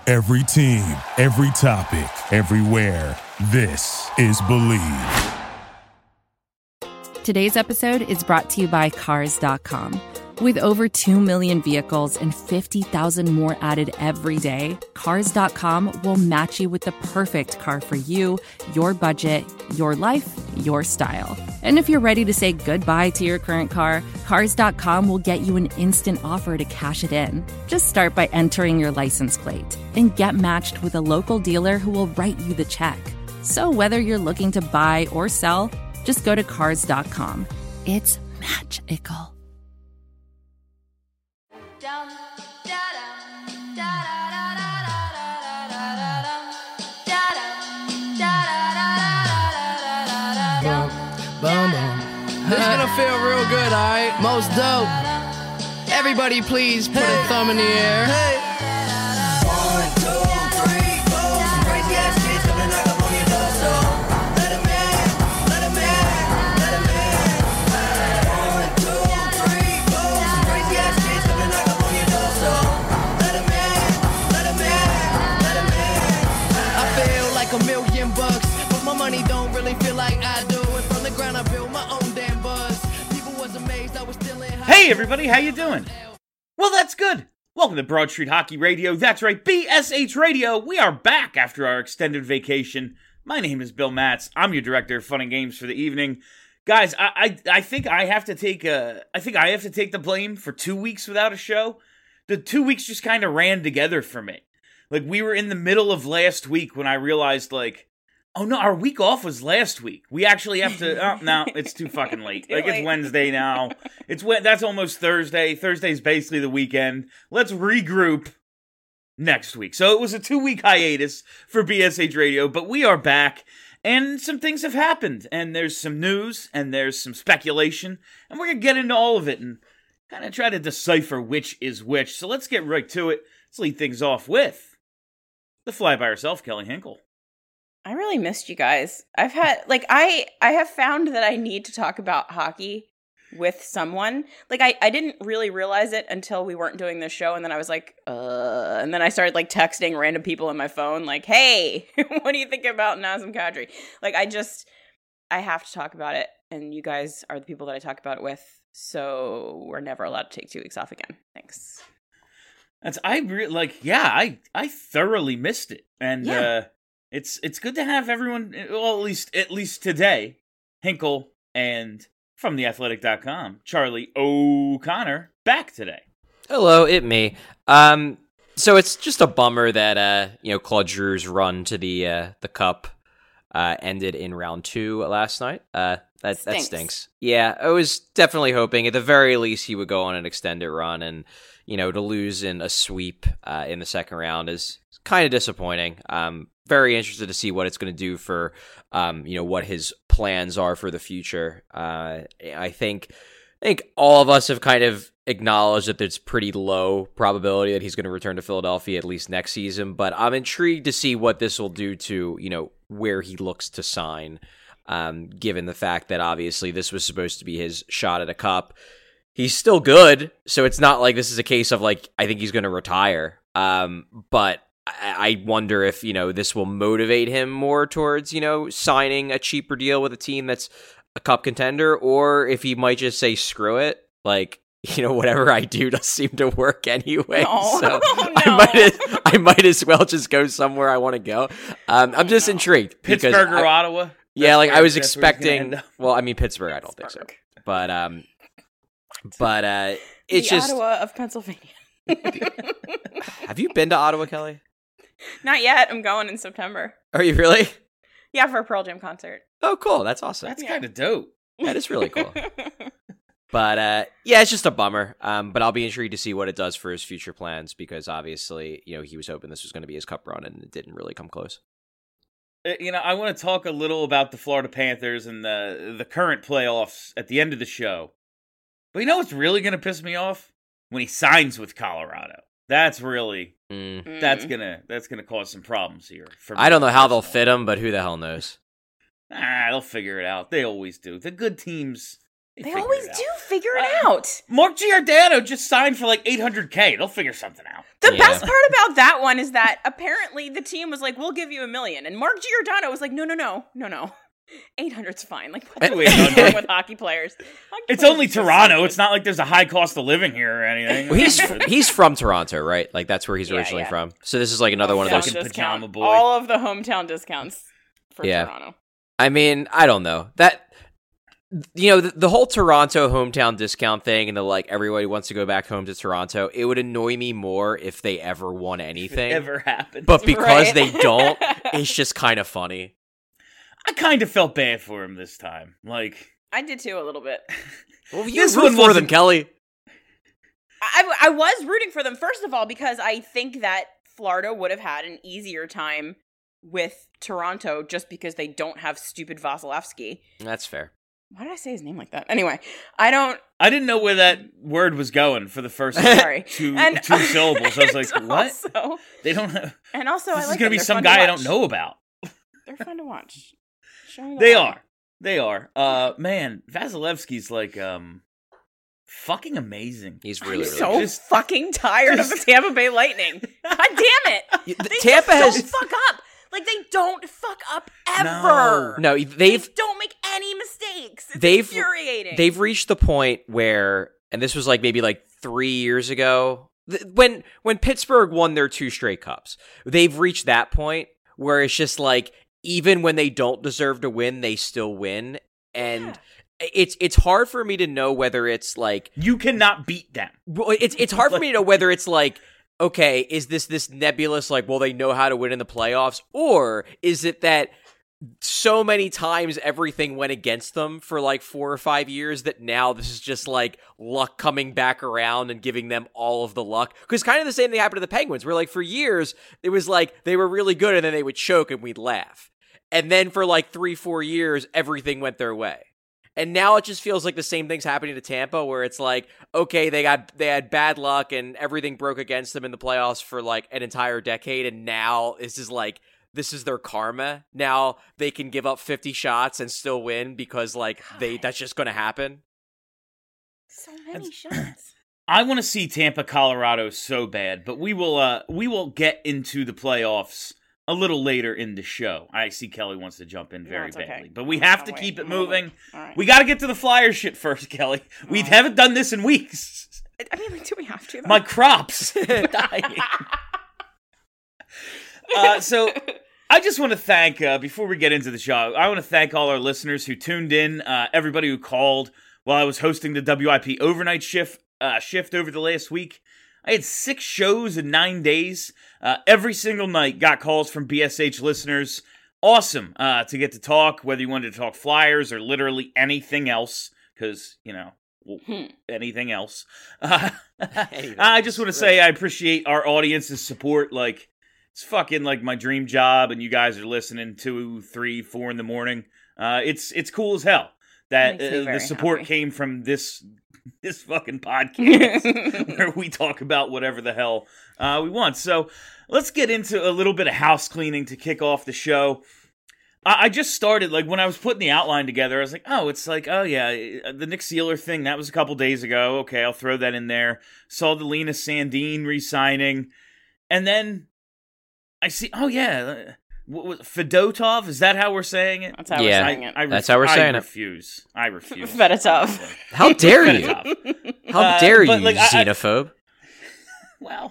Every team, every topic, everywhere. This is Believe. Today's episode is brought to you by Cars.com. With over 2 million vehicles and 50,000 more added every day, Cars.com will match you with the perfect car for you, your budget, your life, your style. And if you're ready to say goodbye to your current car, Cars.com will get you an instant offer to cash it in. Just start by entering your license plate and get matched with a local dealer who will write you the check. So whether you're looking to buy or sell, just go to Cars.com. It's magical. This is gonna feel real good, alright? Most dope. Everybody please put a thumb in the air. One, two, three, four. Some crazy ass shit coming knock up on your door. So let 'em in, let 'em in, let 'em in. One, two, three, four. Some crazy ass shit coming knock up on your door. So let 'em in, let 'em in, let 'em in. I feel like $1,000,000, but my money don't really feel like I do. And from the ground I built my own damn buzz. People was amazed I was still in high. Hey everybody, how you doing? Well, that's good. Welcome to Broad Street Hockey Radio. That's right, BSH Radio. We are back after our extended vacation. My name is Bill Matz. I'm your director of fun and games for the evening. Guys, I think I have to take the blame for 2 weeks without a show. The 2 weeks just kind of ran together for me. Like, we were in the middle of last week when I realized, like, oh no, our week off was last week. We actually have to. Oh no, it's too fucking late. It's Wednesday now. That's almost Thursday. Thursday's basically the weekend. Let's regroup next week. So it was a 2-week hiatus for BSH Radio, but we are back, and some things have happened, and there's some news, and there's some speculation, and we're gonna get into all of it and kind of try to decipher which is which. So let's get right to it. Let's lead things off with the fly by herself, Kelly Hinkle. I really missed you guys. I've had, like, I have found that I need to talk about hockey with someone. Like, I didn't really realize it until we weren't doing this show, and then I was like, and then I started, like, texting random people on my phone, like, hey, what do you think about Nazem Kadri? Like, I have to talk about it, and you guys are the people that I talk about it with, so we're never allowed to take 2 weeks off again. Thanks. I thoroughly missed it, and Yeah. It's good to have everyone, well, at least today, Hinkle and from theathletic.com, Charlie O'Connor, back today. Hello, me. So it's just a bummer that Claude Giroux's run to the cup ended in round 2 last night. That stinks. Yeah, I was definitely hoping at the very least he would go on an extended run, and to lose in a sweep in the second round is kind of disappointing. Very interested to see what it's going to do for, what his plans are for the future. I think all of us have kind of acknowledged that there's pretty low probability that he's going to return to Philadelphia at least next season, but I'm intrigued to see what this will do to, where he looks to sign, given the fact that obviously this was supposed to be his shot at a cup. He's still good, so it's not like this is a case of, like, I think he's going to retire, but I wonder if, this will motivate him more towards, signing a cheaper deal with a team that's a cup contender, or if he might just say, screw it, like, whatever I do does seem to work anyway. No. So No. I might as well just go somewhere I want to go. I'm just intrigued. Pittsburgh or Ottawa? Yeah, like I was that's where he's gonna end expecting, up. well, I mean, Pittsburgh, I don't think so. But it's the just, Ottawa of Pennsylvania. have you been to Ottawa, Kelly? Not yet. I'm going in September. Are you really? Yeah, for a Pearl Jam concert. Oh, cool. That's awesome. That's kind of dope. That is really cool. But yeah, it's just a bummer. But I'll be intrigued to see what it does for his future plans, because obviously, he was hoping this was going to be his cup run, and it didn't really come close. I want to talk a little about the Florida Panthers and the current playoffs at the end of the show. But what's really going to piss me off? When he signs with Colorado. That's really that's gonna cause some problems here. For me I don't know how they'll personally. fit him, but who the hell knows? They'll figure it out. They always do. The good teams They always do figure it out. Mark Giordano just signed for like $800K. They'll figure something out. The best part about that one is that apparently the team was like, we'll give you $1 million. And Mark Giordano was like, no. 800's fine. Like, what's wrong with hockey players? It's only Toronto. It's not like there's a high cost of living here or anything. Well, he's from Toronto, right? Like, that's where he's originally from. So this is like another one of those. Pajama boy. All of the hometown discounts for Toronto. I mean, I don't know. That, you know, the whole Toronto hometown discount thing and the, like, everybody wants to go back home to Toronto, it would annoy me more if they ever won anything. If it ever happened. But because they don't, it's just kind of funny. I kind of felt bad for him this time. Like, I did too, a little bit. Well, you root for them, Kelly. I was rooting for them, first of all, because I think that Florida would have had an easier time with Toronto just because they don't have stupid Vasilevsky. That's fair. Why did I say his name like that? Anyway, I didn't know where that word was going for the first two syllables. I was like, what? Also, they don't have... And also, this is going to be some guy I don't know about. They're fun to watch. They are. Man, Vasilevsky's like, fucking amazing. He's really so good. Fucking tired of the Tampa Bay Lightning. God damn it! Tampa don't fuck up. Like, they don't fuck up ever. No, they don't make any mistakes. It's infuriating. They've reached the point where, and this was like maybe like 3 years ago, when Pittsburgh won their 2 straight cups. They've reached that point where it's just like, even when they don't deserve to win, they still win. And it's hard for me to know whether it's like... You cannot beat them. It's hard for me to know whether it's like, okay, is this nebulous, like, well, they know how to win in the playoffs? Or is it that so many times everything went against them for like 4 or 5 years that now this is just like luck coming back around and giving them all of the luck? Because kind of the same thing happened to the Penguins, where like for years it was like they were really good and then they would choke and we'd laugh. And then for like 3-4 years, everything went their way. And now it just feels like the same thing's happening to Tampa, where it's like, okay, they had bad luck and everything broke against them in the playoffs for like an entire decade, and now this is their karma. Now they can give up 50 shots and still win because like that's just going to happen. So many shots. I want to see Tampa, Colorado so bad, but we will get into the playoffs a little later in the show. I see Kelly wants to jump in very badly, but we have to keep it moving. Right. We got to get to the Flyers shit first, Kelly. We haven't done this in weeks. I mean, like, do we have to? Though? My crops dying. So I just want to thank, before we get into the show, I want to thank all our listeners who tuned in, everybody who called while I was hosting the WIP overnight shift over the last week. I had 6 shows in 9 days. Every single night got calls from BSH listeners. Awesome to get to talk, whether you wanted to talk Flyers or literally anything else, because, you know, anything else. I just want to say I appreciate our audience's support. Like, it's fucking like my dream job, and you guys are listening 2, 3, 4 in the morning. It's cool as hell that the support came from this fucking podcast where we talk about whatever the hell we want. So let's get into a little bit of house cleaning to kick off the show. I just started, like, when I was putting the outline together, I was like, oh yeah, the Nick Seeler thing, that was a couple days ago. Okay, I'll throw that in there. Saw the Lena Sandin re-signing. And then I see, oh yeah, Fedotov, is that how we're saying it? That's how we're saying it. That's how we're saying it. I refuse. Fedotov. How dare you? How dare you, like, xenophobe? Well.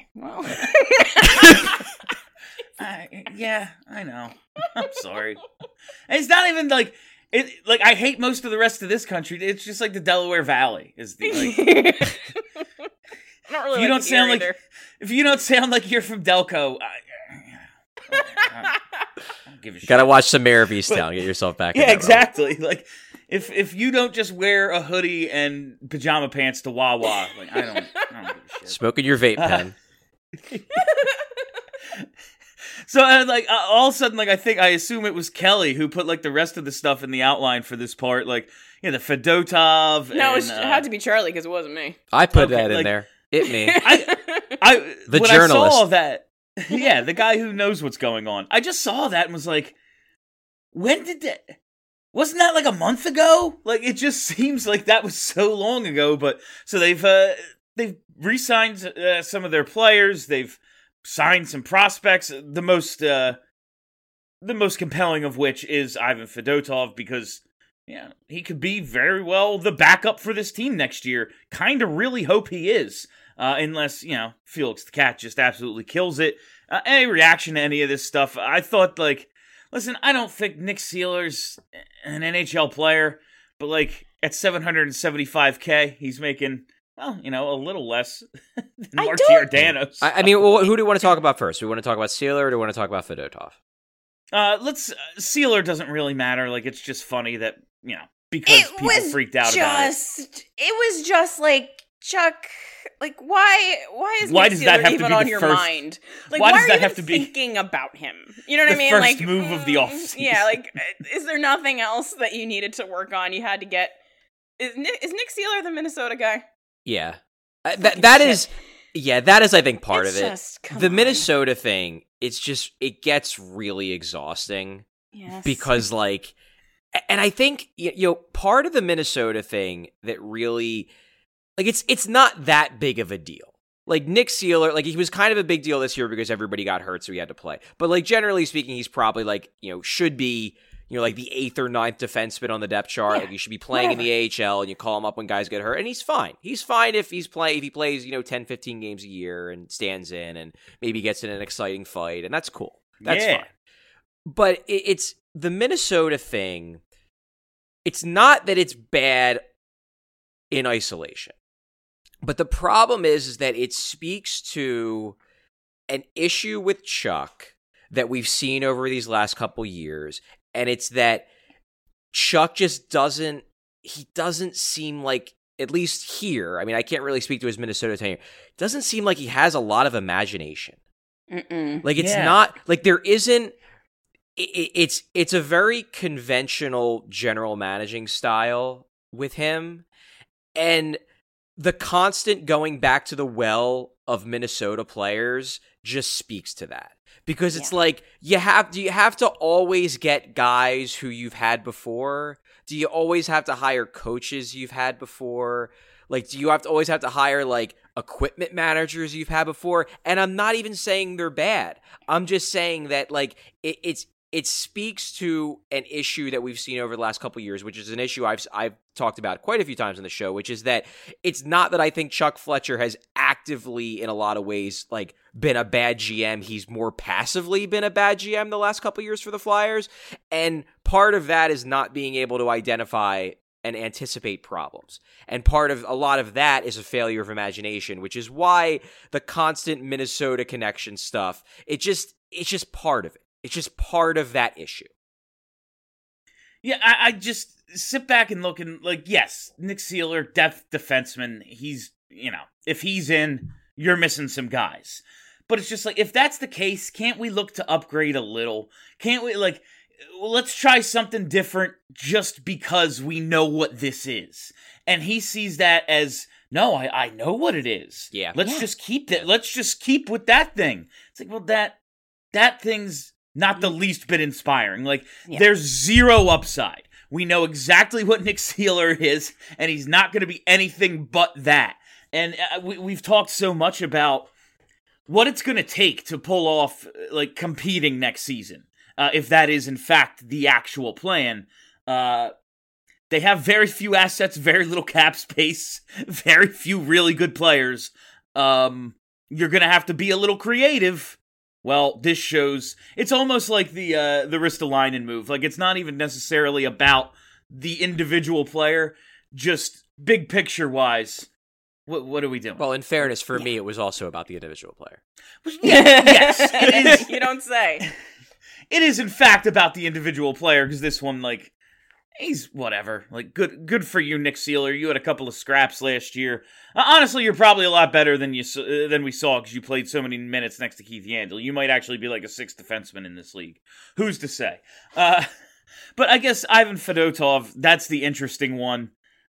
Yeah, I know. I'm sorry. And it's not even like it. Like, I hate most of the rest of this country. It's just like the Delaware Valley is the. Like, I don't really. If you don't sound like you're from Delco, I don't give a shit. Gotta watch some Mayor of Easttown. Get yourself back. Yeah, exactly. Like, if you don't just wear a hoodie and pajama pants to Wawa, like, I don't give a shit. Smoking your vape pen. So, like, all of a sudden, like, I assume it was Kelly who put, like, the rest of the stuff in the outline for this part, like, you know, the Fedotov. No, it had to be Charlie because it wasn't me. I put that in there. It me. The when journalist. I saw that, yeah, the guy who knows what's going on. I just saw that and was like, when did wasn't that like a month ago? Like, it just seems like that was so long ago. But so they've re-signed some of their players. They've signed some prospects. The most compelling of which is Ivan Fedotov, because he could be very well the backup for this team next year. Kind of really hope he is, unless Felix the Cat just absolutely kills it. Any reaction to any of this stuff? I thought, like, listen, I don't think Nick Seeler's an NHL player, but like at $775K, he's making, well, a little less than Mark Giordano's. I mean, who do you want to talk about first? Do we want to talk about Seeler or do we want to talk about Fedotov? Seeler doesn't really matter. Like, it's just funny that, because people freaked out about it. It was just like, Chuck, like, why is Nick Seeler even on your mind? Like, why does that have to be thinking about him? You know what I mean? First move of the offseason. Yeah, like, is there nothing else that you needed to work on? You had to get. Is Nick Seeler the Minnesota guy? Yeah, that is, I think, part of it. The Minnesota thing, it gets really exhausting. Yes. Because, like, and I think part of the Minnesota thing that really. Like, it's not that big of a deal. Like, Nick Seeler, like, he was kind of a big deal this year because everybody got hurt, so he had to play. But, like, generally speaking, he's probably, like, should be, like, the 8th or 9th defenseman on the depth chart. Yeah, like, he should be playing in the AHL, and you call him up when guys get hurt, and he's fine. He's fine if he plays, 10, 15 games a year and stands in and maybe gets in an exciting fight, and that's cool. That's fine. But it's the Minnesota thing. It's not that it's bad in isolation. But the problem is that it speaks to an issue with Chuck that we've seen over these last couple years, and it's that Chuck just doesn't seem like, at least here, I mean, I can't really speak to his Minnesota tenure, doesn't seem like he has a lot of imagination. Like, it's not, like, there isn't, it's a very conventional general managing style with him, and the constant going back to the well of Minnesota players just speaks to that. Because it's like, do you have to always get guys who you've had before? Do you always have to hire coaches you've had before? Like, do you always have to hire, like, equipment managers you've had before? And I'm not even saying they're bad. I'm just saying that, like, it speaks to an issue that we've seen over the last couple of years, which is an issue I've talked about quite a few times on the show, which is that it's not that I think Chuck Fletcher has actively, in a lot of ways, like, been a bad GM. He's more passively been a bad GM the last couple of years for the Flyers. And part of that is not being able to identify and anticipate problems. And a lot of that is a failure of imagination, which is why the constant Minnesota connection stuff, it's just part of it. It's just part of that issue. Yeah, I just sit back and look and, like, yes, Nick Seeler, depth defenseman, he's, if he's in, you're missing some guys. But it's just like, if that's the case, can't we look to upgrade a little? Can't we, like, let's try something different just because we know what this is? And he sees that as, no, I know what it is. Yeah. Let's just keep that. Let's just keep with that thing. It's like, well, that thing's not the least bit inspiring. Like, there's zero upside. We know exactly what Nick Seeler is, and he's not going to be anything but that. And we've talked so much about what it's going to take to pull off, like, competing next season, if that is, in fact, the actual plan. They have very few assets, very little cap space, very few really good players. You're going to have to be a little creative. Well, this shows, it's almost like the Ristolainen move. Like, it's not even necessarily about the individual player, just big picture-wise, what are we doing? Well, in fairness, for me, it was also about the individual player. Yes, it is. You don't say. It is, in fact, about the individual player, because this one, like, he's whatever. Like, good for you, Nick Seeler. You had a couple of scraps last year. Honestly, you're probably a lot better than we saw because you played so many minutes next to Keith Yandle. You might actually be like a 6th defenseman in this league. Who's to say? But I guess Ivan Fedotov, that's the interesting one.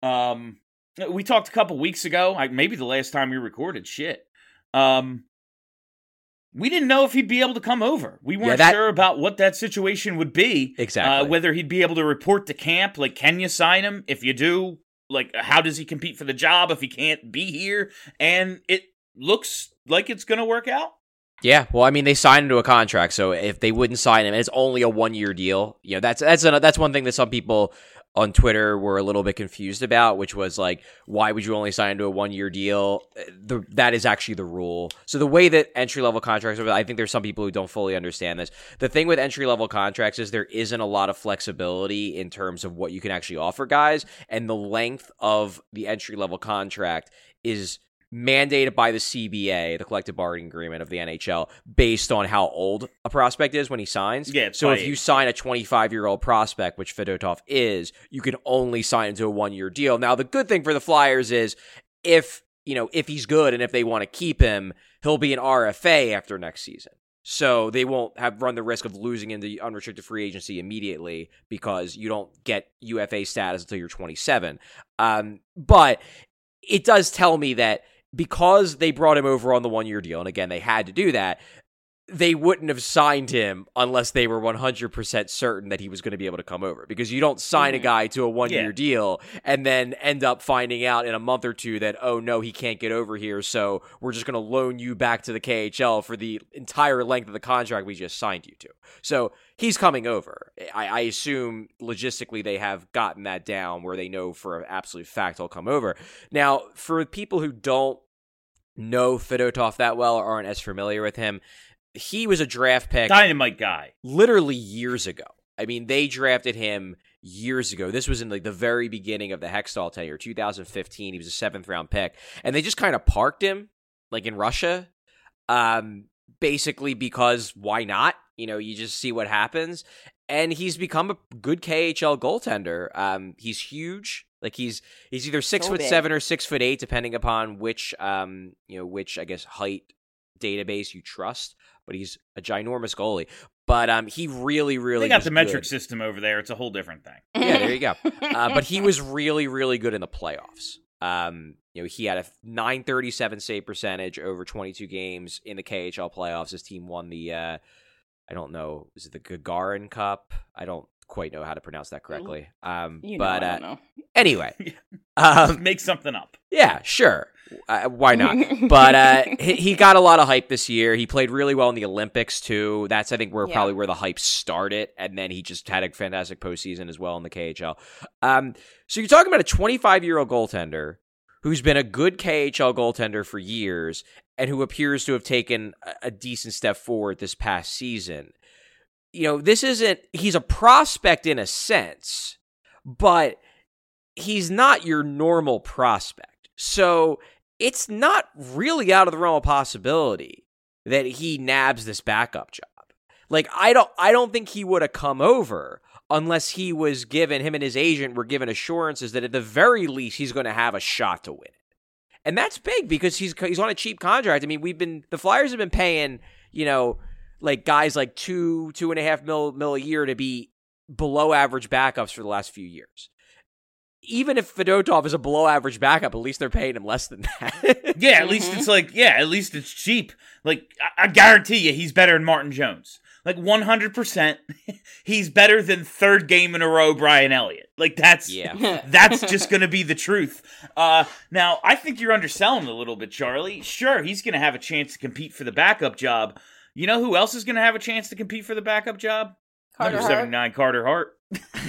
We talked a couple weeks ago, maybe the last time we recorded. Shit. we didn't know if he'd be able to come over. We weren't sure about what that situation would be. Exactly. Whether he'd be able to report to camp. Like, can you sign him? If you do, like, how does he compete for the job if he can't be here? And it looks like it's going to work out. Yeah, well, I mean, they signed him to a contract, so if they wouldn't sign him, it's only a 1-year deal. You know, that's one thing that some people on Twitter were a little bit confused about, which was like, why would you only sign him to a 1-year deal? That is actually the rule. So the way that entry-level contracts are, I think there's some people who don't fully understand this. The thing with entry-level contracts is there isn't a lot of flexibility in terms of what you can actually offer guys, and the length of the entry-level contract is mandated by the CBA, the collective bargaining agreement of the NHL, based on how old a prospect is when he signs. Yeah, so if you sign a 25-year-old prospect, which Fedotov is, you can only sign into a 1-year deal. Now, the good thing for the Flyers is if he's good and if they want to keep him, he'll be an RFA after next season. So they won't run the risk of losing into unrestricted free agency immediately because you don't get UFA status until you're 27. But it does tell me that because they brought him over on the 1-year deal, and again, they had to do that, they wouldn't have signed him unless they were 100% certain that he was going to be able to come over. Because you don't sign a guy to a 1-year deal and then end up finding out in a month or two that, oh no, he can't get over here, so we're just going to loan you back to the KHL for the entire length of the contract we just signed you to. So he's coming over. I assume logistically they have gotten that down where they know for an absolute fact he'll come over. Now, for people who don't know Fedotov that well or aren't as familiar with him, he was a draft pick. Dynamite guy. Literally years ago. I mean, they drafted him years ago. This was in like the very beginning of the Hextall tenure, 2015. He was a 7th-round pick. And they just kind of parked him, like in Russia, basically because why not? You know, you just see what happens. And he's become a good KHL goaltender. He's huge. Like he's either 6'7" or 6'8", depending upon which I guess height database you trust. But he's a ginormous goalie. But he really they got the metric system over there. It's a whole different thing. Yeah, there you go. But he was really, really good in the playoffs. He had a .937 save percentage over 22 games in the KHL playoffs. His team won the I don't know, is it the Gagarin Cup? I don't quite know how to pronounce that correctly. I don't know. Anyway, make something up. Yeah, sure. Why not? But he got a lot of hype this year. He played really well in the Olympics too. That's I think probably where the hype started, and then he just had a fantastic postseason as well in the KHL. So you're talking about a 25-year-old goaltender who's been a good KHL goaltender for years and who appears to have taken a decent step forward this past season. You know, he's a prospect in a sense, but he's not your normal prospect. So it's not really out of the realm of possibility that he nabs this backup job. Like, I don't think he would have come over unless him and his agent were given assurances that at the very least he's going to have a shot to win it. And that's big because he's on a cheap contract. I mean, the Flyers have been paying, like guys like $2.5 million a year to be below average backups for the last few years. Even if Fedotov is a below average backup, at least they're paying him less than that. Yeah, at least at least it's cheap. Like, I guarantee you he's better than Martin Jones. Like, 100%, he's better than third game in a row Brian Elliott. Like, that's just going to be the truth. Now, I think you're underselling a little bit, Charlie. Sure, he's going to have a chance to compete for the backup job. You know who else is going to have a chance to compete for the backup job? Number 79, Carter Hart.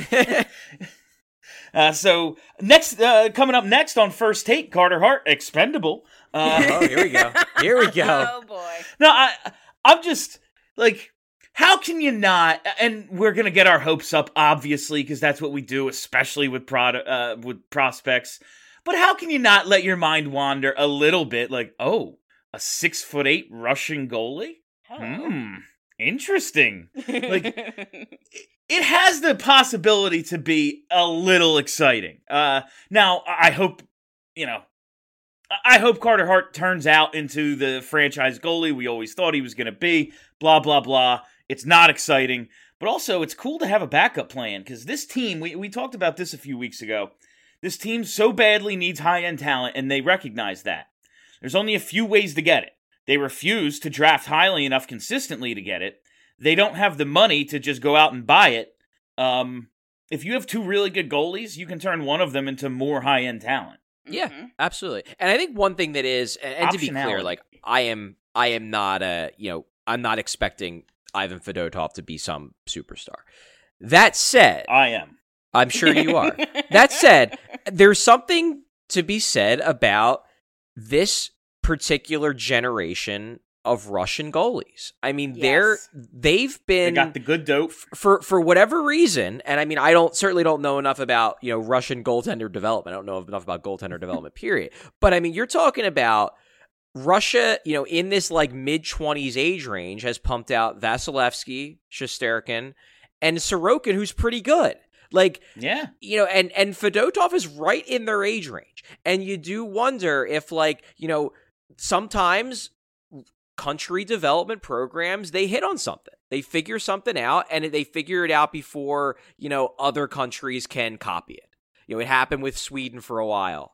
So next, coming up next on First Take, Carter Hart, expendable. Here we go. Oh boy. No, I'm just like, how can you not? And we're gonna get our hopes up, obviously, because that's what we do, especially with prospects. But how can you not let your mind wander a little bit? Like, oh, a 6'8" Russian goalie? Interesting. Like. It has the possibility to be a little exciting. Now, I hope Carter Hart turns out into the franchise goalie we always thought he was going to be. Blah, blah, blah. It's not exciting. But also, it's cool to have a backup plan, because this team, we talked about this a few weeks ago, this team so badly needs high-end talent, and they recognize that. There's only a few ways to get it. They refuse to draft highly enough consistently to get it. They don't have the money to just go out and buy it. If you have two really good goalies, you can turn one of them into more high-end talent. Yeah, absolutely. And I think one thing that is, and to be clear, like I am not I'm not expecting Ivan Fedotov to be some superstar. That said, I am. I'm sure you are. That said, there's something to be said about this particular generation of Russian goalies. I mean, they've been, they got the good dope for whatever reason. And I mean, I certainly don't know enough about, Russian goaltender development. I don't know enough about goaltender development, period. But I mean, you're talking about Russia, in this like mid-20s age range has pumped out Vasilevsky, Shesterkin, and Sorokin, who's pretty good. Like, yeah, and Fedotov is right in their age range. And you do wonder if, like, sometimes country development programs, they hit on something. They figure something out, and they figure it out before, other countries can copy it. It happened with Sweden for a while.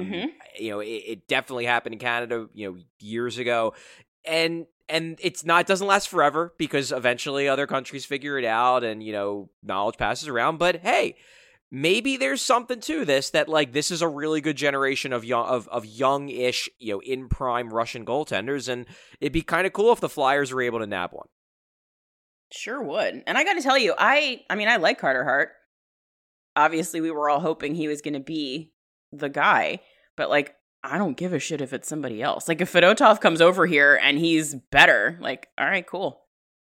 It definitely happened in Canada, years ago. And it doesn't last forever because eventually other countries figure it out and, knowledge passes around. But hey, maybe there's something to this that, like, this is a really good generation of young-ish, in prime Russian goaltenders. And it'd be kind of cool if the Flyers were able to nab one. Sure would. And I got to tell you, I like Carter Hart. Obviously, we were all hoping he was going to be the guy, but like, I don't give a shit if it's somebody else. Like, if Fedotov comes over here and he's better, like, all right, cool.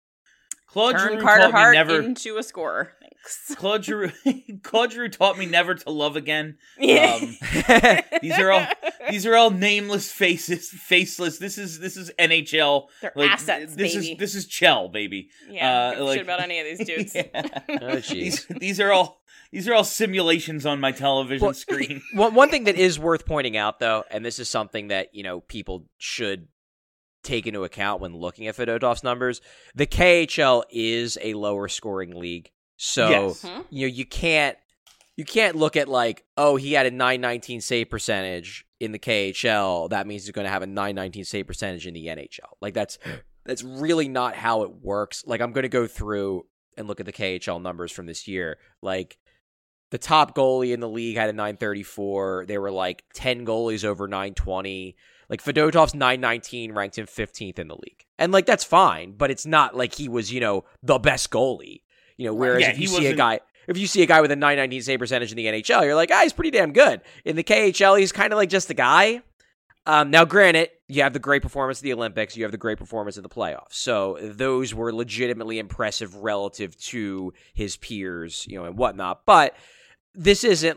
Turn Carter Hart into a scorer. Thanks. Claude Giroux taught me never to love again. Yeah. These are all nameless faceless. This is NHL. They're assets, baby. This is Chell, baby. Yeah, don't give a shit about any of these dudes. Yeah. Oh, jeez. These are all simulations on my television screen. One thing that is worth pointing out, though, and this is something that, people should take into account when looking at Fedotov's numbers, the KHL is a lower scoring league. So, yes. You can't look at like, oh, he had a .919 save percentage in the KHL. That means he's going to have a .919 save percentage in the NHL. Like, that's really not how it works. Like, I'm going to go through and look at the KHL numbers from this year. Like, the top goalie in the league had a .934. There were like 10 goalies over .920. Like, Fedotov's .919 ranked him 15th in the league. And like, that's fine, but it's not like he was, the best goallie. Whereas if you see a guy with a .919 save percentage in the NHL, you're like, he's pretty damn good. In the KHL, he's kind of like just a guy. Now, granted, you have the great performance of the Olympics, you have the great performance of the playoffs. So those were legitimately impressive relative to his peers, and whatnot. But this isn't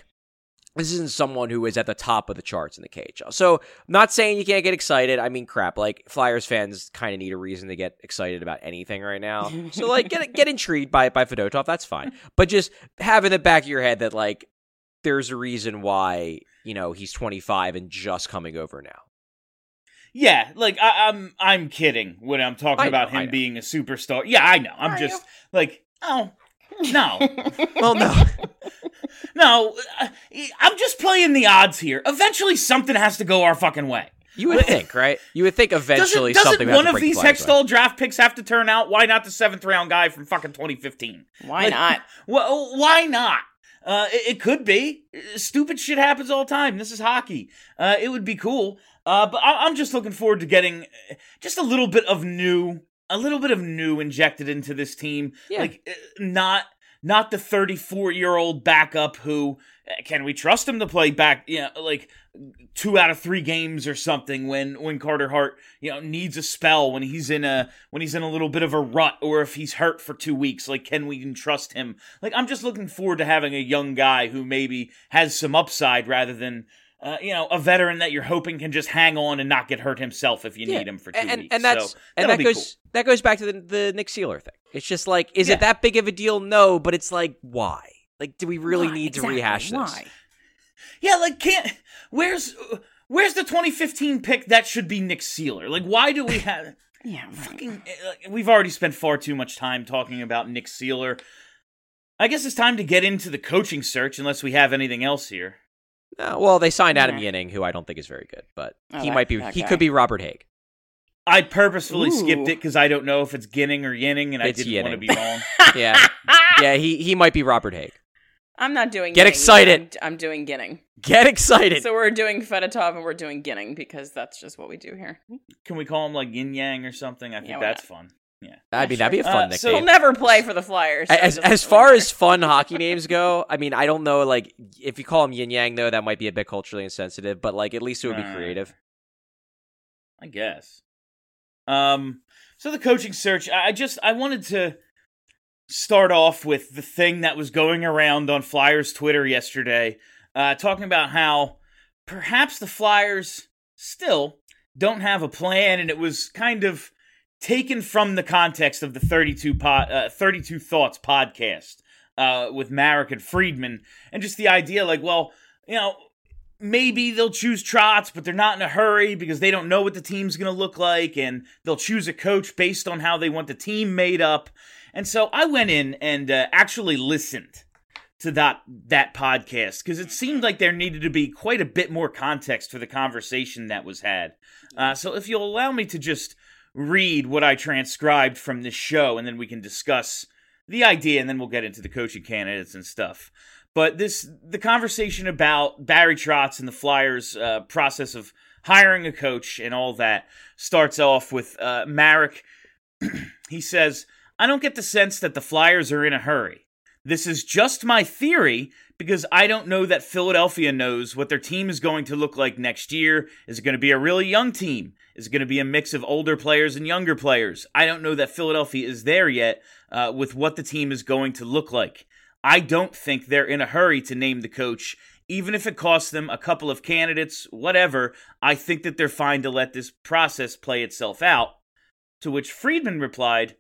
someone who is at the top of the charts in the KHL. So I'm not saying you can't get excited. I mean, crap, like, Flyers fans kind of need a reason to get excited about anything right now. So like, get intrigued by Fedotov. That's fine. But just have in the back of your head that, like, there's a reason why, he's 25 and just coming over now. Yeah, like, I'm kidding when I'm talking about him being a superstar. Yeah, I know. I'm just like, oh, no. Well, no. No, I'm just playing the odds here. Eventually, something has to go our fucking way. You would think, right? You would think eventually something would have to break. Doesn't one of these Hextall draft picks have to turn out? Why not the 7th round guy from fucking 2015? Why not? Well, why not? It could be. Stupid shit happens all the time. This is hockey. It would be cool. But I'm just looking forward to getting just a little bit of new injected into this team. Yeah. Like, not the 34-year-old backup who, can we trust him to play back, like 2 out of 3 games or something when Carter Hart, needs a spell, when he's in a little bit of a rut, or if he's hurt for 2 weeks, like, can we even trust him? Like, I'm just looking forward to having a young guy who maybe has some upside rather than, a veteran that you're hoping can just hang on and not get hurt himself if you need him for 2 weeks. And that goes back to the Nick Seeler thing. It's just like, is it that big of a deal? No, but it's like, why? Like, do we really need to rehash this? Why? Yeah, like, where's the 2015 pick that should be Nick Seeler? Like, why do we have... Yeah, right. We've already spent far too much time talking about Nick Seeler. I guess it's time to get into the coaching search, unless we have anything else here. Well, they signed Adam Yinning, who I don't think is very good, but he could be Robert Haig. I purposefully skipped it because I don't know if it's Ginning or Yinning, and I didn't want to be wrong. Yeah. Yeah, he might be Robert Haig. I'm not doing Get Ginning. excited. I'm doing Ginning. Get excited. So we're doing Fedotov and we're doing Ginning because that's just what we do here. Can we call him like Yin Yang or something? I think that's fun. Yeah. I mean, that'd be a fun nickname. So he'll never play for the Flyers. So as far as fun hockey names go, I mean, I don't know, like, if you call him Yin Yang, though, that might be a bit culturally insensitive, but, like, at least it would be creative. I guess. So the coaching search, I wanted to start off with the thing that was going around on Flyers Twitter yesterday, talking about how perhaps the Flyers still don't have a plan, and it was kind of taken from the context of the 32 Thoughts podcast with Marek and Friedman, and just the idea, like, well, you know, maybe they'll choose Trotz, but they're not in a hurry because they don't know what the team's going to look like, and they'll choose a coach based on how they want the team made up. And so I went in and actually listened to that podcast because it seemed like there needed to be quite a bit more context for the conversation that was had. So if you'll allow me to just read what I transcribed from this show, and then we can discuss the idea, and then we'll get into the coaching candidates and stuff. But the conversation about Barry Trotz and the Flyers' process of hiring a coach and all that starts off with Marek. He says, "I don't get the sense that the Flyers are in a hurry. This is just my theory because I don't know that Philadelphia knows what their team is going to look like next year. Is it going to be a really young team? Is it going to be a mix of older players and younger players? I don't know that Philadelphia is there yet with what the team is going to look like. I don't think they're in a hurry to name the coach, even if it costs them a couple of candidates, whatever. I think that they're fine to let this process play itself out." To which Friedman replied,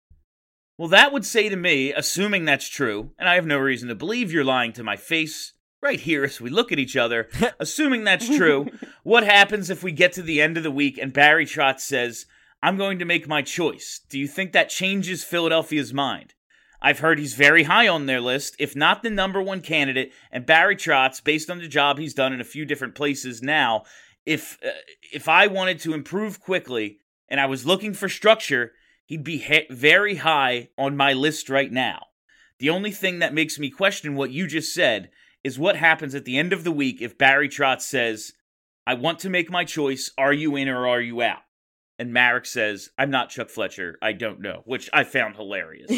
"Well, that would say to me, assuming that's true, and I have no reason to believe you're lying to my face right here as we look at each other, assuming that's true, what happens if we get to the end of the week and Barry Trotz says, 'I'm going to make my choice'? Do you think that changes Philadelphia's mind? I've heard he's very high on their list, if not the number one candidate, and Barry Trotz, based on the job he's done in a few different places now, if I wanted to improve quickly and I was looking for structure, he'd be very high on my list right now. The only thing that makes me question what you just said is what happens at the end of the week if Barry Trotz says, 'I want to make my choice, are you in or are you out?' And Marek says, 'I'm not Chuck Fletcher, I don't know,' which I found hilarious.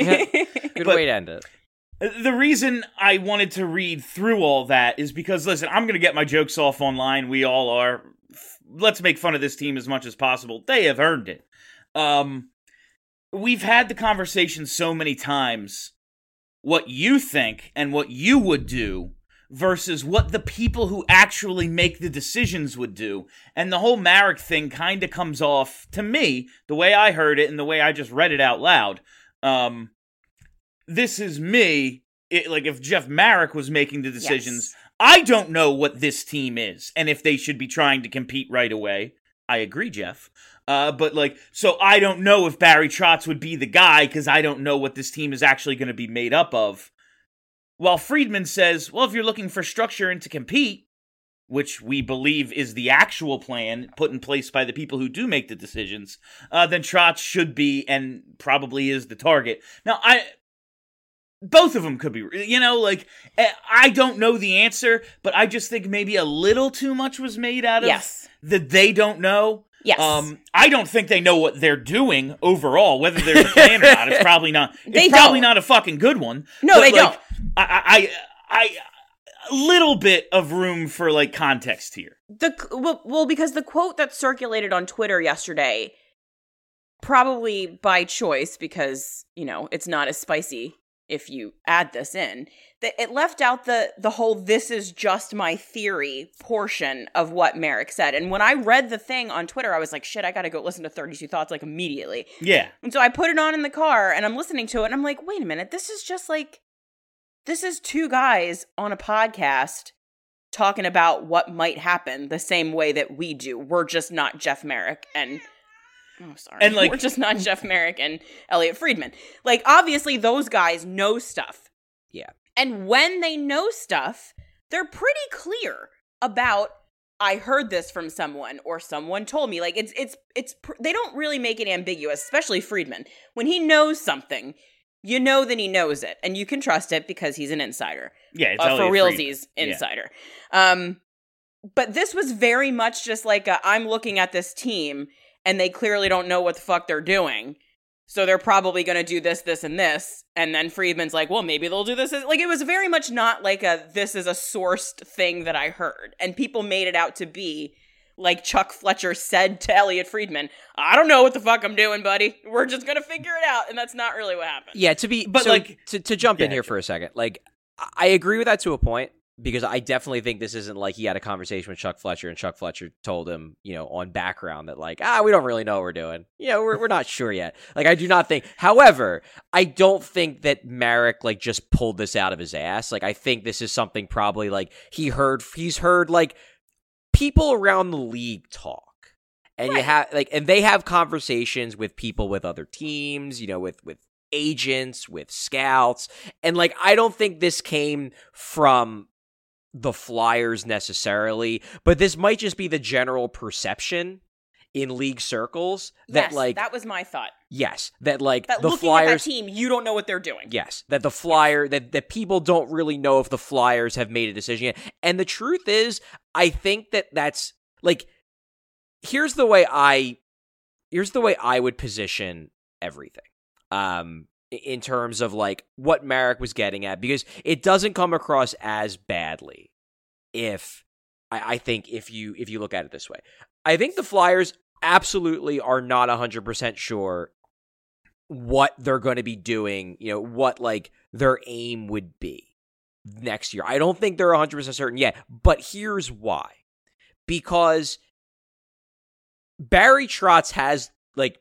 Good way to end it. The reason I wanted to read through all that is because, listen, I'm going to get my jokes off online. We all are. Let's make fun of this team as much as possible. They have earned it. We've had the conversation so many times, what you think and what you would do versus what the people who actually make the decisions would do. And the whole Marek thing kind of comes off, to me, the way I heard it and the way I just read it out loud. This is me, like if Jeff Marek was making the decisions, yes. I don't know what this team is and if they should be trying to compete right away. I agree, Jeff. But like, so I don't know if Barry Trotz would be the guy because I don't know what this team is actually going to be made up of. While Friedman says, well, if you're looking for structure and to compete, which we believe is the actual plan put in place by the people who do make the decisions, then Trotz should be and probably is the target. Now, both of them could be, I don't know the answer, but I just think maybe a little too much was made out of that they don't know. Yes. I don't think they know what they're doing overall, whether there's a plan or not. It's probably not. It's probably not a fucking good one. No, they don't. I a little bit of room for like context here. Because the quote that circulated on Twitter yesterday, probably by choice, because it's not as spicy if you add this in, that it left out the whole "this is just my theory" portion of what Marek said. And when I read the thing on Twitter, I was like, shit, I gotta go listen to 32 Thoughts like immediately. Yeah. And so I put it on in the car and I'm listening to it and I'm like, wait a minute, this is two guys on a podcast talking about what might happen the same way that we do. We're just not Jeff Marek and... Oh, sorry. And we're just not Jeff Marek and Elliot Friedman. Like, obviously, those guys know stuff. Yeah. And when they know stuff, they're pretty clear about I heard this from someone or someone told me. Like it's they don't really make it ambiguous, especially Friedman. When he knows something, you know that he knows it, and you can trust it because he's an insider. Yeah, it's for Elliot realsies Friedman. insider. But this was very much just like I'm looking at this team, and they clearly don't know what the fuck they're doing. So they're probably going to do this, this, and this. And then Friedman's like, well, maybe they'll do this. Like, it was very much not like this is a sourced thing that I heard. And people made it out to be like Chuck Fletcher said to Elliot Friedman, I don't know what the fuck I'm doing, buddy. We're just going to figure it out. And that's not really what happened. Yeah, to jump in here for a second, like, I agree with that to a point. Because I definitely think this isn't like he had a conversation with Chuck Fletcher and Chuck Fletcher told him, on background that like, we don't really know what we're doing. We're not sure yet. Like, I do not think. However, I don't think that Marek like just pulled this out of his ass. Like, I think this is something probably like he's heard like people around the league talk. And you have like, and they have conversations with people with other teams, with agents, with scouts. And like, I don't think this came from the Flyers necessarily, but this might just be the general perception in league circles that that was my thought. Yes, that like that the looking Flyers at that team, you don't know what they're doing. Yes, that the that people don't really know if the Flyers have made a decision yet. And the truth is, I think that's like here's the way I would position everything. In terms of like what Marek was getting at, because it doesn't come across as badly if I think if you look at it this way. I think the Flyers absolutely are not 100% sure what they're going to be doing, what like their aim would be next year. I don't think they're 100% certain yet, but here's why. Because Barry Trotz has like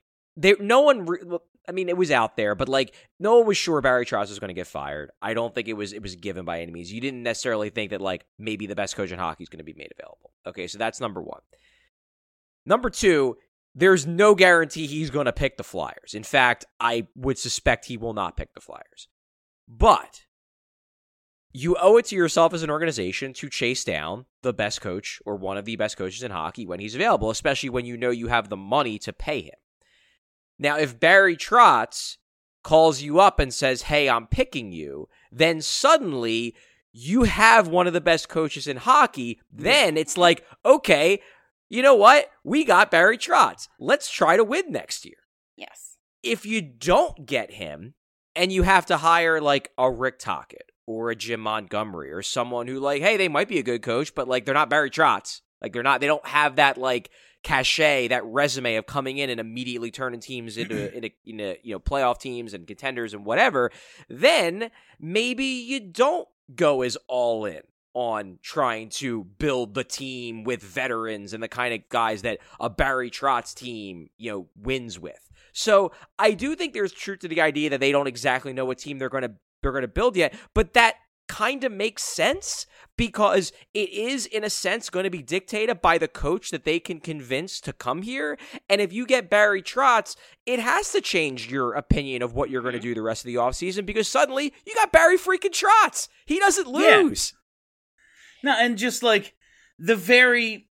it was out there, but like no one was sure Barry Trotz was going to get fired. I don't think it was given by any means. You didn't necessarily think that like maybe the best coach in hockey is going to be made available. Okay, so that's number one. Number two, there's no guarantee he's going to pick the Flyers. In fact, I would suspect he will not pick the Flyers. But you owe it to yourself as an organization to chase down the best coach or one of the best coaches in hockey when he's available, especially when you know you have the money to pay him. Now, if Barry Trotz calls you up and says, hey, I'm picking you, then suddenly you have one of the best coaches in hockey. Then it's like, okay, you know what? We got Barry Trotz. Let's try to win next year. Yes. If you don't get him and you have to hire like a Rick Tocchet or a Jim Montgomery or someone who like, hey, they might be a good coach, but like they're not Barry Trotz. Like they don't have that like cachet, that resume of coming in and immediately turning teams into playoff teams and contenders and whatever, then maybe you don't go as all in on trying to build the team with veterans and the kind of guys that a Barry Trotz team, wins with. So I do think there's truth to the idea that they don't exactly know what team they're going to build yet, but that kind of makes sense because it is in a sense going to be dictated by the coach that they can convince to come here. And if you get Barry Trotz, it has to change your opinion of what you're going to do the rest of the offseason because suddenly you got Barry freaking Trotz. He doesn't lose. Yeah. No, and just like the very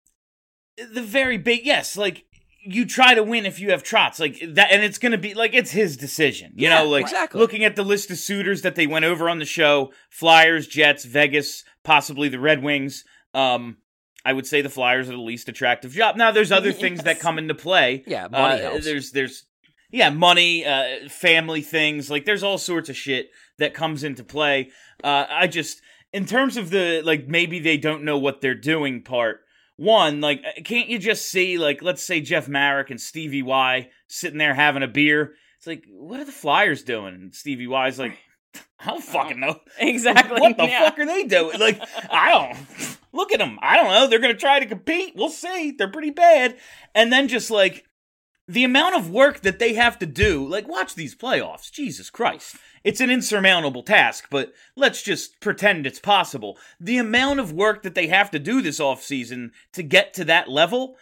big, yes, like you try to win if you have Trotz, like that, and it's going to be like it's his decision, you know. Like exactly. Looking at the list of suitors that they went over on the show: Flyers, Jets, Vegas, possibly the Red Wings. I would say the Flyers are the least attractive job. Now, there's other things that come into play. Yeah, money helps. There's money, family things. Like there's all sorts of shit that comes into play. I just, in terms of the like, maybe they don't know what they're doing part. One, like, can't you just see, like, let's say Jeff Marek and Stevie Y sitting there having a beer? It's like, what are the Flyers doing? And Stevie Y's like, I don't fucking know. Exactly. What the fuck are they doing? Like, I don't. Look at them. I don't know. They're going to try to compete. We'll see. They're pretty bad. And then just, like, the amount of work that they have to do, like, watch these playoffs. Jesus Christ. It's an insurmountable task, but let's just pretend it's possible. The amount of work that they have to do this offseason to get to that level,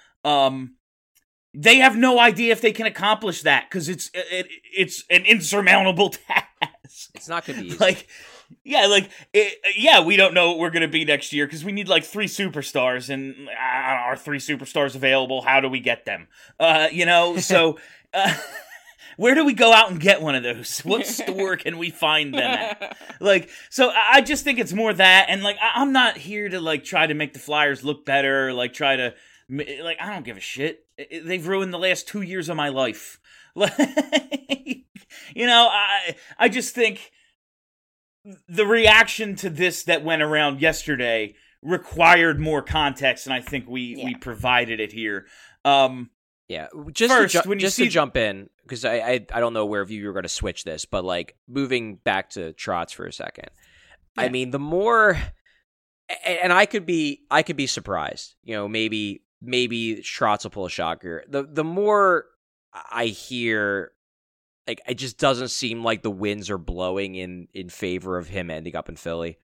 they have no idea if they can accomplish that because it's an insurmountable task. It's not going to be easy. Like, Yeah, like, we don't know what we're going to be next year because we need like 3 superstars, and are 3 superstars available? How do we get them? So where do we go out and get one of those? What store can we find them at? Like, so I just think it's more that, and like, I'm not here to like try to make the Flyers look better, like try to, like, I don't give a shit. They've ruined the last 2 years of my life. Like, I just think the reaction to this that went around yesterday required more context, and I think we provided it here. Just to jump in, because I don't know where you were going to switch this, but like moving back to Trotz for a second. Yeah. I mean, the more, and I could be surprised. Maybe Trotz will pull a shocker. The more I hear, like, it just doesn't seem like the winds are blowing in favor of him ending up in Philly.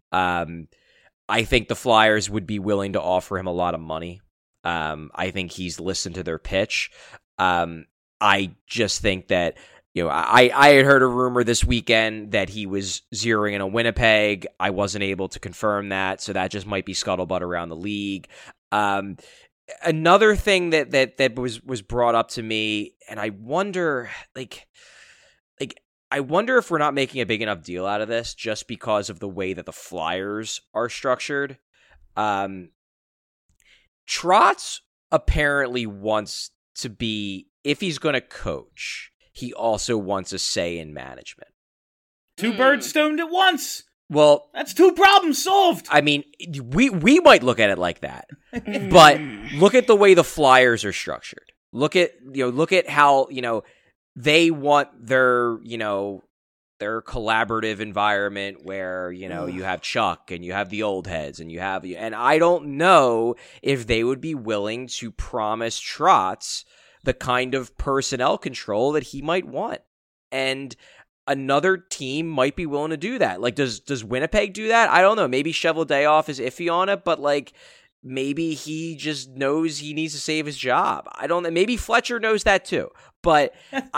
I think the Flyers would be willing to offer him a lot of money. I think he's listened to their pitch. I just think that, I had heard a rumor this weekend that he was zeroing in a Winnipeg. I wasn't able to confirm that, so that just might be scuttlebutt around the league. Another thing that was brought up to me, and I wonder, I wonder if we're not making a big enough deal out of this just because of the way that the Flyers are structured. Trotz apparently wants to be, if he's going to coach, he also wants a say in management. 2 birds stoned at once. Well, that's 2 problems solved. I mean, we might look at it like that, but look at the way the Flyers are structured. Look at how, they want their collaborative environment where, you have Chuck and you have the old heads and I don't know if they would be willing to promise Trotz the kind of personnel control that he might want. And another team might be willing to do that. Like, does Winnipeg do that? I don't know. Maybe Cheveldayoff is iffy on it, but like, maybe he just knows he needs to save his job. I don't know. Maybe Fletcher knows that too. But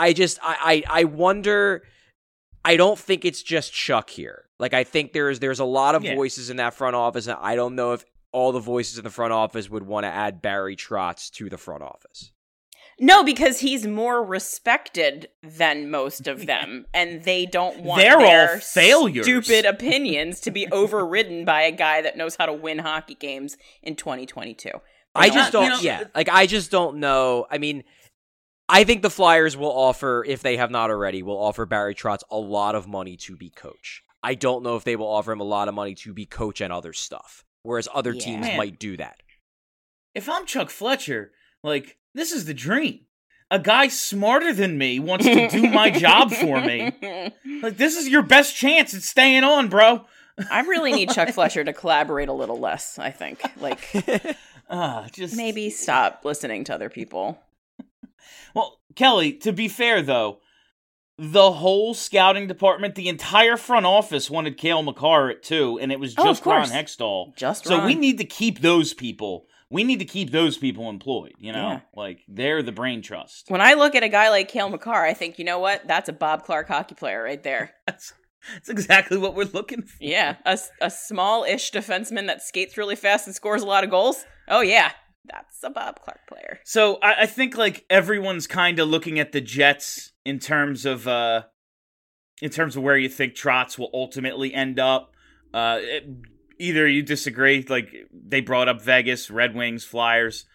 I wonder. I don't think it's just Chuck here. Like, I think there's a lot of voices in that front office, and I don't know if all the voices in the front office would want to add Barry Trotz to the front office. No, because he's more respected than most of them, and they don't want They're their all failures. Stupid opinions to be overridden by a guy that knows how to win hockey games in 2022. I just don't know. I mean, I think the Flyers will offer, if they have not already, will offer Barry Trotz a lot of money to be coach. I don't know if they will offer him a lot of money to be coach and other stuff, whereas other teams might do that. If I'm Chuck Fletcher, like, this is the dream. A guy smarter than me wants to do my job for me. Like, this is your best chance at staying on, bro. I really need Chuck Fletcher to collaborate a little less, I think. Like, maybe stop listening to other people. Well, Kelly, to be fair, though, the whole scouting department, the entire front office wanted Cale Makar at 2, and it was just Ron Hextall. So we need to keep those people. We need to keep those people employed, Like, they're the brain trust. When I look at a guy like Cale Makar, I think, you know what? That's a Bob Clark hockey player right there. That's exactly what we're looking for. Yeah, a small-ish defenseman that skates really fast and scores a lot of goals. Oh, yeah. That's a Bob Clark player. So I think, like, everyone's kind of looking at the Jets in terms of where you think Trotz will ultimately end up. Either you disagree, like, they brought up Vegas, Red Wings, Flyers.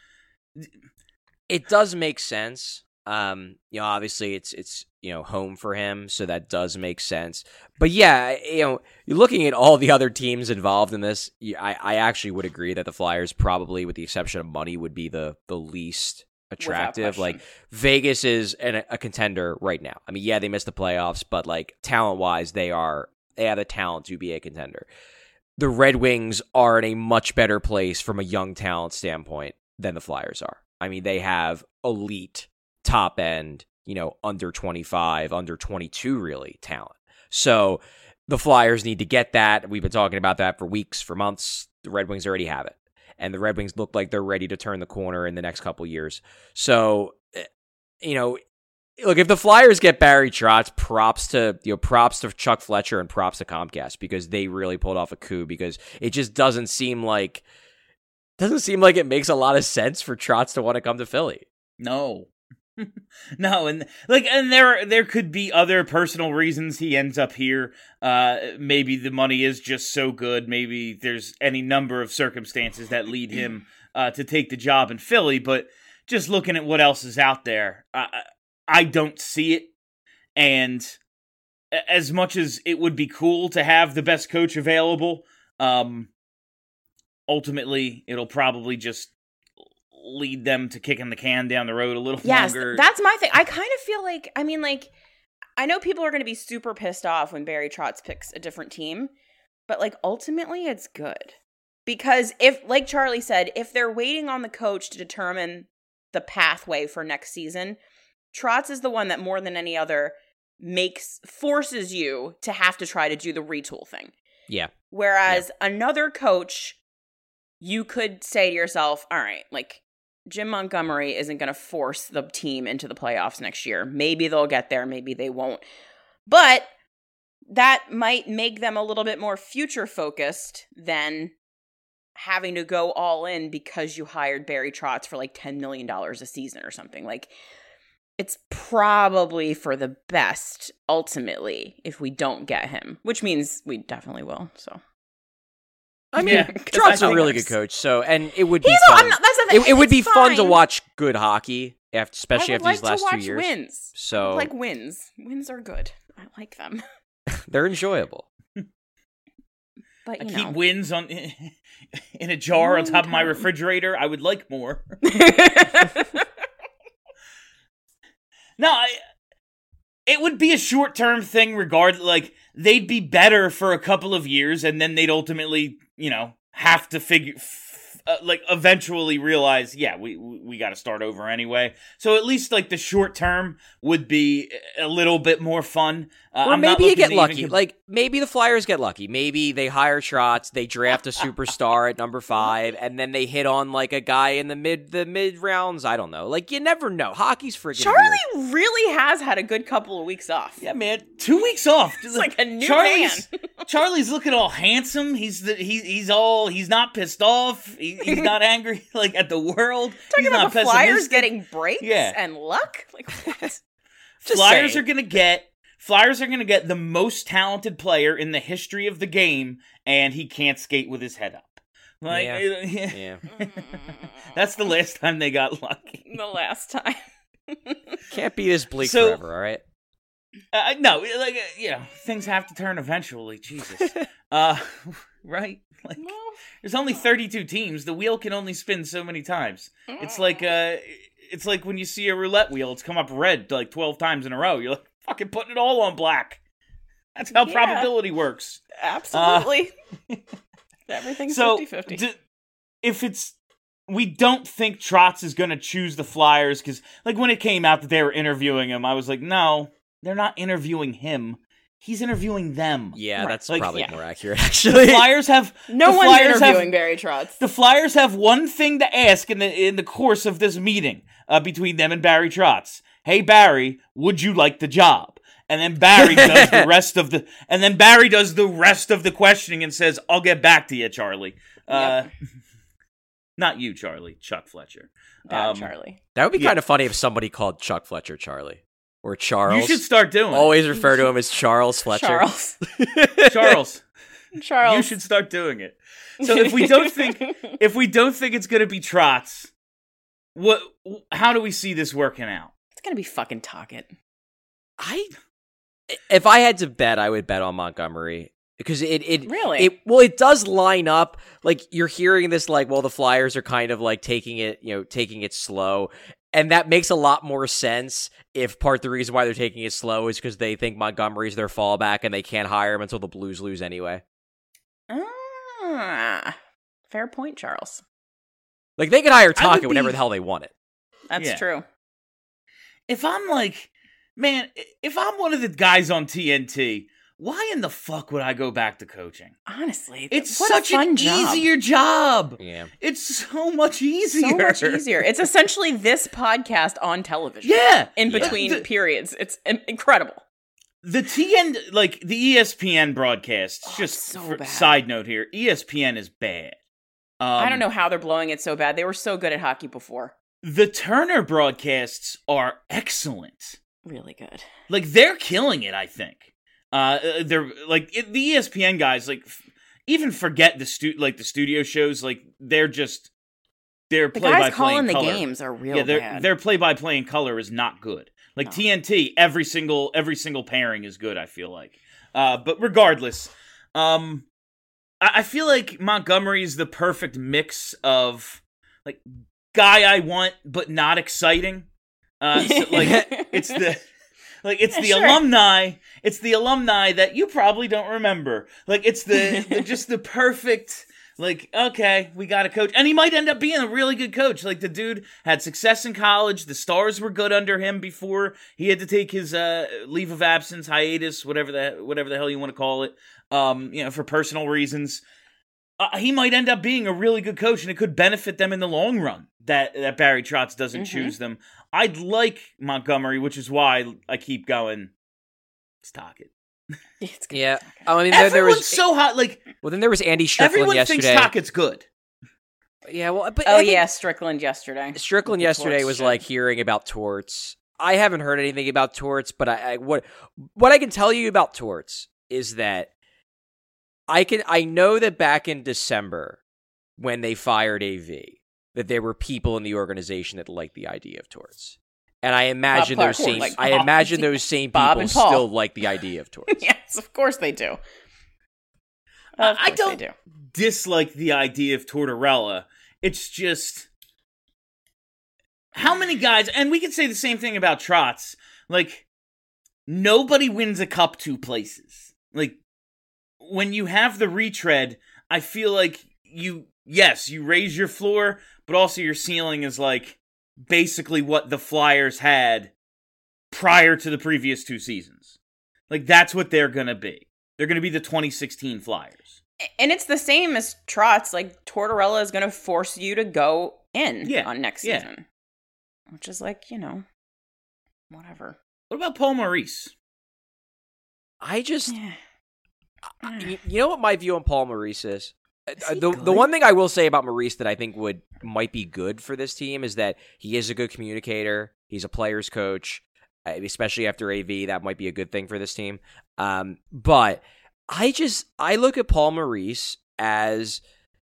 It does make sense. Obviously it's home for him, so that does make sense. But yeah, you're looking at all the other teams involved in this. I actually would agree that the Flyers, probably with the exception of money, would be the least attractive. Like, Vegas is a contender right now. I mean, yeah, they missed the playoffs, but like, talent-wise, they have the talent to be a contender. The Red Wings are in a much better place from a young talent standpoint than the Flyers are. I mean, they have elite, top end, under 25, under 22, really, talent. So the Flyers need to get that. We've been talking about that for weeks, for months. The Red Wings already have it. And the Red Wings look like they're ready to turn the corner in the next couple years. So, look, if the Flyers get Barry Trotz, props to Chuck Fletcher and props to Comcast because they really pulled off a coup because it just doesn't seem like it makes a lot of sense for Trotz to want to come to Philly. No. No, and there could be other personal reasons he ends up here. Maybe the money is just so good. Maybe there's any number of circumstances that lead him to take the job in Philly. But just looking at what else is out there, I don't see it. And as much as it would be cool to have the best coach available, ultimately it'll probably just lead them to kicking the can down the road a little longer. Yes, that's my thing. I kind of feel like, I know people are going to be super pissed off when Barry Trotz picks a different team, but ultimately it's good. Because if, like Charlie said, if they're waiting on the coach to determine the pathway for next season, Trotz is the one that more than any other forces you to have to try to do the retool thing. Yeah. Whereas another coach, you could say to yourself, all right, Jim Montgomery isn't going to force the team into the playoffs next year. Maybe they'll get there. Maybe they won't. But that might make them a little bit more future focused than having to go all in because you hired Barry Trotz for $10 million a season or something. It's probably for the best ultimately if we don't get him, which means we definitely will. So. I mean, Trotz is a really good coach, and it would be fun. That's the thing. It would be fun to fine. watch good hockey, especially after these last 2 years. Wins. So, wins. Wins are good. I like them. They're enjoyable. But I keep wins in a jar on top of my refrigerator. I would like more. No, it would be a short-term thing regardless. They'd be better for a couple of years, and then they'd ultimately, have to eventually realize, we got to start over anyway. So at least, the short term would be a little bit more fun. Or maybe you get lucky. Maybe the Flyers get lucky. Maybe they hire Trotz, they draft a superstar at number 5, and then they hit on, a guy in the mid rounds. I don't know. You never know. Hockey's freaking Charlie weird. really has had a good couple of weeks off. Yeah, man. 2 weeks off. It's a new man. Charlie's looking all handsome. He's not pissed off. He's not angry at the world. Talking he's about not the Flyers pessimistic. getting breaks and luck. What? Flyers are gonna get the most talented player in the history of the game, and he can't skate with his head up. Yeah. That's the last time they got lucky. The last time. Can't be this bleak forever, all right? No, things have to turn eventually. Jesus, right? There's only 32 teams. The wheel can only spin so many times. It's like when you see a roulette wheel. It's come up red 12 times in a row. You're fucking putting it all on black. That's how probability works. Absolutely. Everything's 50-50. We don't think Trotz is going to choose the Flyers because, when it came out that they were interviewing him, I was like, no, they're not interviewing him. He's interviewing them. Yeah, that's probably more accurate, actually. The Flyers have... No one's interviewing Barry Trotz. The Flyers have one thing to ask in the course of this meeting between them and Barry Trotz. Hey, Barry, would you like the job? And then Barry does the rest of the... And then Barry does the rest of the questioning and says, I'll get back to you, Charlie. Yep. Not you, Charlie. Chuck Fletcher. Charlie. That would be kind of funny if somebody called Chuck Fletcher Charlie. Or Charles. You should start doing it. Always refer to him as Charles Fletcher. Charles. Charles. You should start doing it. So if we don't think it's going to be Trotz, how do we see this working out? It's going to be fucking Tocchet. If I had to bet, I would bet on Montgomery. Because really? It does line up. You're hearing this the Flyers are kind of taking it slow. And that makes a lot more sense if part of the reason why they're taking it slow is because they think Montgomery's their fallback and they can't hire him until the Blues lose anyway. Fair point, Charles. They could hire Tocchet whenever the hell they want it. That's true. If I'm if I'm one of the guys on TNT, why in the fuck would I go back to coaching? Honestly, It's what such a fun an job. easier job. Yeah. It's so much easier. So much easier. It's essentially this podcast on television. Yeah. In between periods. It's incredible. The TN, like the ESPN broadcasts, just so for, bad. side note here, ESPN is bad. I don't know how they're blowing it so bad. They were so good at hockey before. The Turner broadcasts are excellent. Really good. Like, they're killing it, I think. They're, like, the ESPN guys, like, even forget the studio shows, like, they're The play-by-play guys in calling the color. games are real Yeah, bad. their play-by-play in color is not good. Like, No. TNT, every single pairing is good, I feel like. But regardless, I feel like Montgomery is the perfect mix of, like, guy I want, but not exciting. It's the Sure. alumni. It's the alumni that you probably don't remember. Like, it's just the perfect. Like, okay, we got a coach, and he might end up being a really good coach. Like, the dude had success in college. The Stars were good under him before he had to take his leave of absence, hiatus, whatever the hell you want to call it. For personal reasons. He might end up being a really good coach, and it could benefit them in the long run that Barry Trotz doesn't choose them. I'd like Montgomery, which is why I keep going. Let's talk it. It's good. Yeah. I mean, Everyone's there was so hot. Like, well, then there was Andy Strickland everyone yesterday. thinks Tockett's good. Yeah, well, but Oh, I think yeah, Strickland yesterday. Strickland With the yesterday torch was shit. like hearing about Torts. I haven't heard anything about Torts, but what I can tell you about Torts is that I know that back in December when they fired AV, that there were people in the organization that liked the idea of Torts. And I imagine Clark, those same like I Bob. imagine those same Bob people and Paul. still like the idea of Torts. Yes, of course they do. I don't dislike the idea of Tortorella. It's just how many guys, and we could say the same thing about Trotz. Like, nobody wins a cup two places. Like, when you have the retread, I feel like you raise your floor, but also your ceiling is like basically what the Flyers had prior to the previous two seasons. Like, that's what they're going to be. They're going to be the 2016 Flyers. And it's the same as Trotz. Like, Tortorella is going to force you to go in on next season. Which is like, whatever. What about Paul Maurice? I just Yeah. you know what my view on Paul Maurice is? he The good? one thing I will say about Maurice that I think might be good for this team is that he is a good communicator. He's a player's coach, especially after AV. That might be a good thing for this team. But I look at Paul Maurice as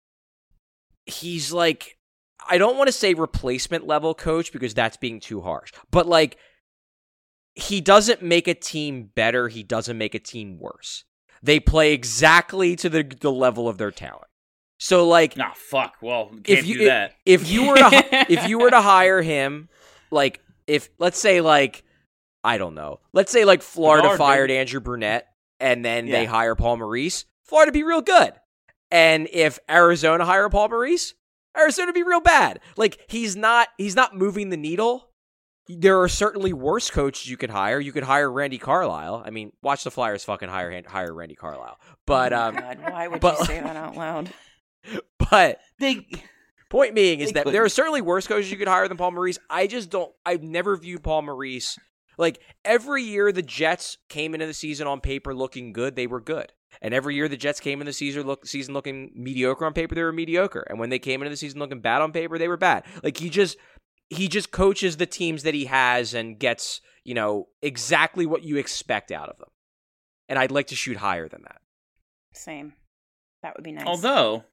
he's like, I don't want to say replacement level coach because that's being too harsh, but like he doesn't make a team better. He doesn't make a team worse. They play exactly to the level of their talent. So like, Nah, fuck. Well, can't do that. If you were to hire him, like if let's say like I don't know, let's say like Florida Bedard, fired baby. Andrew Burnett and then Yeah. they hire Paul Maurice, Florida be real good. And if Arizona hire Paul Maurice, Arizona be real bad. Like he's not moving the needle. There are certainly worse coaches you could hire. You could hire Randy Carlisle. I mean, watch the Flyers fucking hire Randy Carlisle. But Oh my God, why would but- you say that out loud? but They point being is They that couldn't. there are certainly worse coaches you could hire than Paul Maurice. I've never viewed Paul Maurice. Like, every year the Jets came into the season on paper looking good, they were good. And every year the Jets came into the season looking mediocre on paper, they were mediocre. And when they came into the season looking bad on paper, they were bad. Like, he just coaches the teams that he has and gets, exactly what you expect out of them. And I'd like to shoot higher than that. Same. That would be nice. although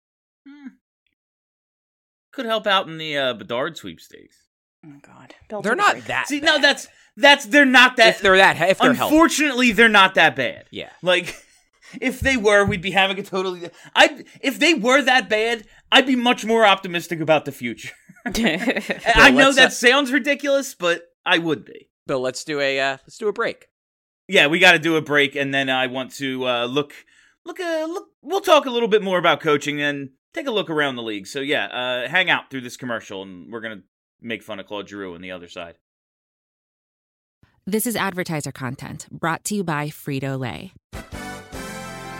could help out in the Bedard sweepstakes. Oh God, Bill They're took a not break. that See, bad. no, that's they're not that. if they're healthy. Unfortunately, they're not that bad. Yeah. Like, if they were, we'd be having a totally. If they were that bad, I'd be much more optimistic about the future. I know let's, that sounds ridiculous, but I would be. Bill, let's do a break. Yeah, we got to do a break, and then I want to look. We'll talk a little bit more about coaching and take a look around the league. So yeah, hang out through this commercial, and we're gonna make fun of Claude Giroux on the other side. This is advertiser content brought to you by Frito-Lay.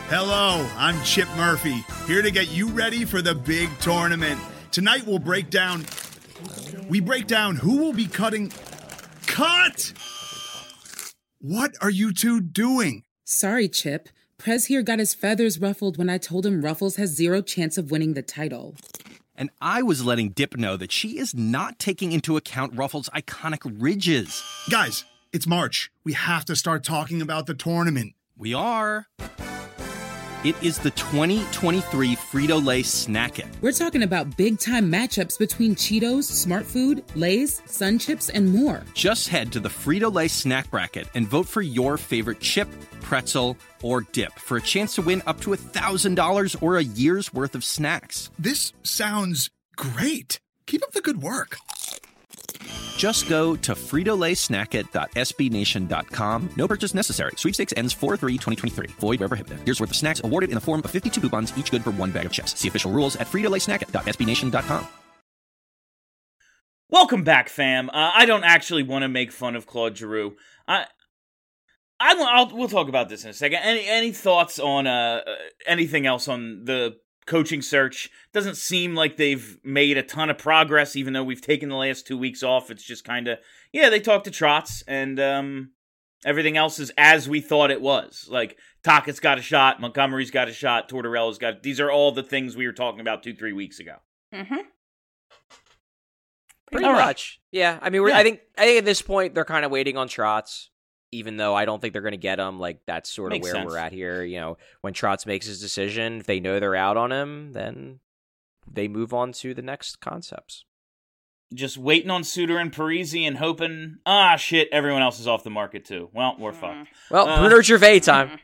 Hello, I'm Chip Murphy, here to get you ready for the big tournament. Tonight we break down who will be cutting... Cut! What are you two doing? Sorry, Chip. Prez here got his feathers ruffled when I told him Ruffles has 0 chance of winning the title. And I was letting Dip know that she is not taking into account Ruffles' iconic ridges. Guys, it's March. We have to start talking about the tournament. We are. It is the 2023 Frito-Lay Snack It. We're talking about big-time matchups between Cheetos, Smart Food, Lay's, Sun Chips, and more. Just head to the Frito-Lay Snack Bracket and vote for your favorite chip, pretzel, or dip for a chance to win up to $1,000 or a year's worth of snacks. This sounds great. Keep up the good work. Just go to fritolaysnackit.sbnation.com. No purchase necessary. Sweepstakes ends 4/3/2023. Void where prohibited. Year's worth of snacks awarded in the form of 52 coupons, each good for 1 bag of chips. See official rules at fritolaysnackit.sbnation.com. Welcome back, fam. I don't actually want to make fun of Claude Giroux. We'll talk about this in a second. Any thoughts on anything else on the coaching search? Doesn't seem like they've made a ton of progress, even though we've taken the last 2 weeks off. It's just kind of, they talked to Trotz, and everything else is as we thought it was. Like, Tockett's got a shot, Montgomery's got a shot, Tortorella's got... These are all the things we were talking about 2-3 weeks ago. Mm-hmm. Pretty much. Yeah, I mean, I think at this point, they're kind of waiting on Trotz. Even though I don't think they're going to get him, like, that's sort of Makes where sense. we're at here. You know, when Trotz makes his decision, if they know they're out on him, then they move on to the next concepts. Just waiting on Suter and Parisi and hoping, shit, everyone else is off the market too. Well, we're fucked. Well, Bruno Gervais time.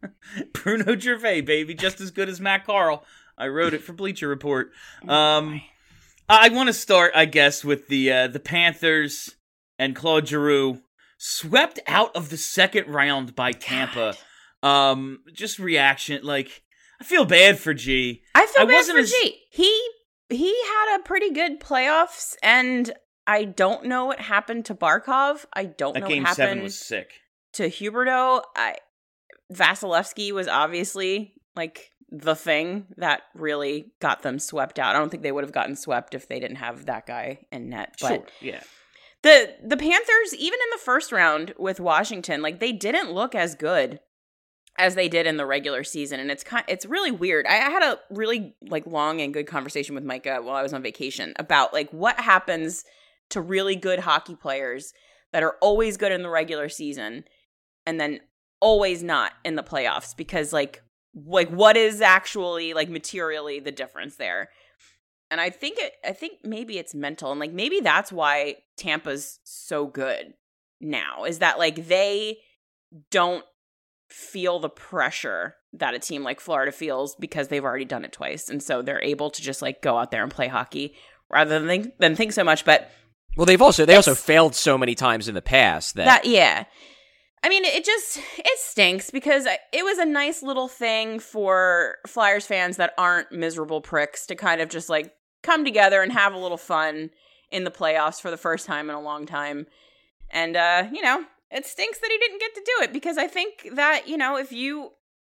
Bruno Gervais, baby, just as good as Matt Carl. I wrote it for Bleacher Report. I want to start, I guess, with the Panthers and Claude Giroux. Swept out of the second round by Tampa. Just reaction, like, I feel bad for G. I feel bad for G. He had a pretty good playoffs, and I don't know what happened to Barkov. I don't know what happened. That game 7 was sick. To Huberdeau. Vasilevsky was obviously, like, the thing that really got them swept out. I don't think they would have gotten swept if they didn't have that guy in net. But sure, yeah. The Panthers, even in the first round with Washington, like, they didn't look as good as they did in the regular season, and it's really weird. I had a really, like, long and good conversation with Micah while I was on vacation about, like, what happens to really good hockey players that are always good in the regular season and then always not in the playoffs, because like what is actually, like, materially the difference there. And I think maybe it's mental, and, like, maybe that's why Tampa's so good now, is that, like, they don't feel the pressure that a team like Florida feels because they've already done it twice. And so they're able to just, like, go out there and play hockey rather than think so much. But well, they also failed so many times in the past that yeah. I mean, it stinks because it was a nice little thing for Flyers fans that aren't miserable pricks to kind of just, like, come together and have a little fun in the playoffs for the first time in a long time. And, it stinks that he didn't get to do it, because I think that, if you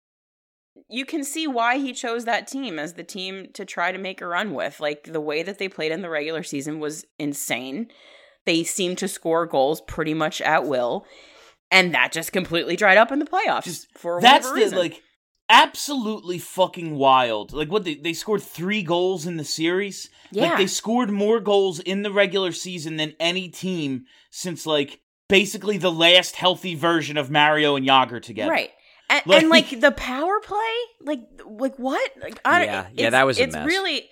can see why he chose that team as the team to try to make a run with. Like, the way that they played in the regular season was insane. They seemed to score goals pretty much at will. And that just completely dried up in the playoffs for whatever reason. That's absolutely fucking wild. Like, what, they scored 3 goals in the series? Yeah. Like, they scored more goals in the regular season than any team since, like, basically the last healthy version of Mario and Jágr together. Right. And the power play, like what? Like, that was a mess. It's really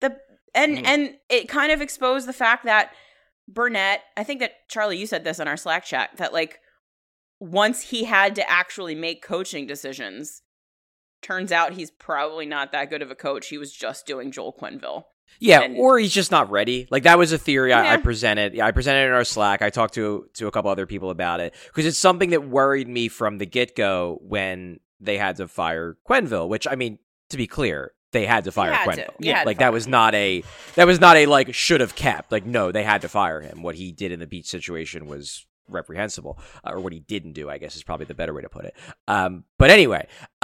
and it kind of exposed the fact that Burnett, I think that, Charlie, you said this on our Slack chat, that, like, once he had to actually make coaching decisions, turns out he's probably not that good of a coach. He was just doing Joel Quenneville. Yeah, or he's just not ready. Like, that was a theory Yeah. I presented. Yeah, I presented it in our Slack. I talked to a couple other people about it, because it's something that worried me from the get-go when they had to fire Quenneville, which, I mean, to be clear, they had to fire Quenneville. Yeah, like, that was not a like, should have kept. Like, no, they had to fire him. What he did in the Beach situation was reprehensible, or what he didn't do, I guess is probably the better way to put it. But anyway,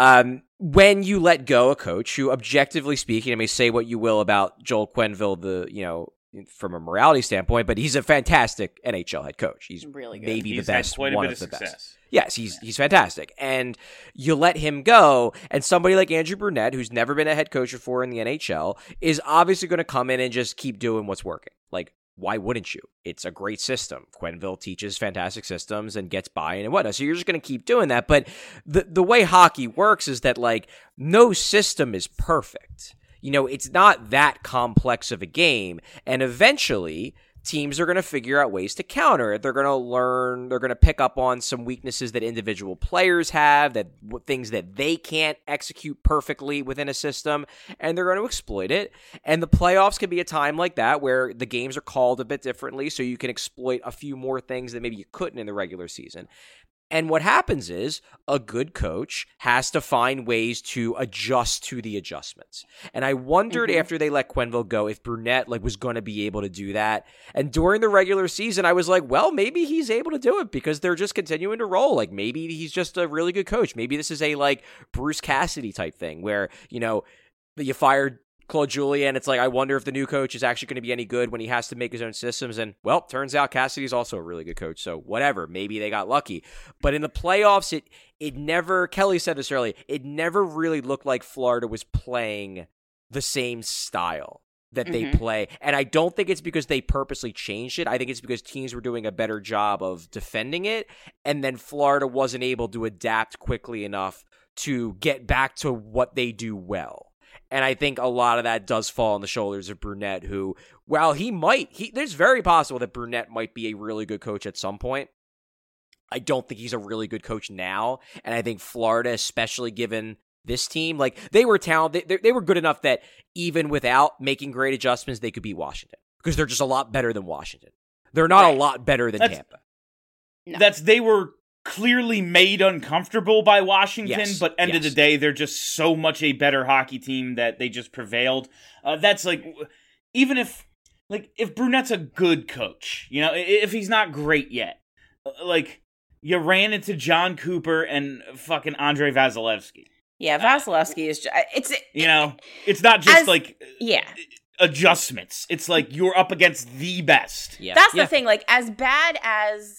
when you let go a coach who, objectively speaking, I mean, say what you will about Joel Quenneville, from a morality standpoint, but he's a fantastic NHL head coach. He's really good. Maybe He's the had best, quite a one bit of the success. best. Yes, he's fantastic. And you let him go, and somebody like Andrew Brunette, who's never been a head coach before in the NHL, is obviously going to come in and just keep doing what's working. Like, why wouldn't you? It's a great system. Quenneville teaches fantastic systems and gets buy-in and whatnot. So you're just going to keep doing that. But the way hockey works is that, like, no system is perfect. It's not that complex of a game. And eventually, teams are going to figure out ways to counter it. They're going to learn. They're going to pick up on some weaknesses that individual players have, things that they can't execute perfectly within a system, and they're going to exploit it. And the playoffs can be a time like that where the games are called a bit differently, so you can exploit a few more things that maybe you couldn't in the regular season. And what happens is a good coach has to find ways to adjust to the adjustments. And I wondered after they let Quenneville go if Brunette was going to be able to do that. And during the regular season, I was like, well, maybe he's able to do it because they're just continuing to roll. Like, maybe he's just a really good coach. Maybe this is a Bruce Cassidy type thing where, you fired Claude Julien, it's like, I wonder if the new coach is actually going to be any good when he has to make his own systems. And, well, turns out Cassidy's also a really good coach. So whatever, maybe they got lucky. But in the playoffs, it never, Kelly said this earlier, it never really looked like Florida was playing the same style that they play. And I don't think it's because they purposely changed it. I think it's because teams were doing a better job of defending it. And then Florida wasn't able to adapt quickly enough to get back to what they do well. And I think a lot of that does fall on the shoulders of Brunette, who, while there's very possible that Brunette might be a really good coach at some point. I don't think he's a really good coach now. And I think Florida, especially given this team, they were talented. They were good enough that even without making great adjustments, they could beat Washington because they're just a lot better than Washington. They're not a lot better than Tampa. No. They were clearly made uncomfortable by Washington, Yes, but end of the day, they're just so much a better hockey team that they just prevailed. That's even if Brunette's a good coach, if he's not great yet, you ran into John Cooper and fucking Andrei Vasilevsky. Yeah, Vasilevsky is just, it's not just adjustments. It's you're up against the best. Yeah. That's the thing. As bad as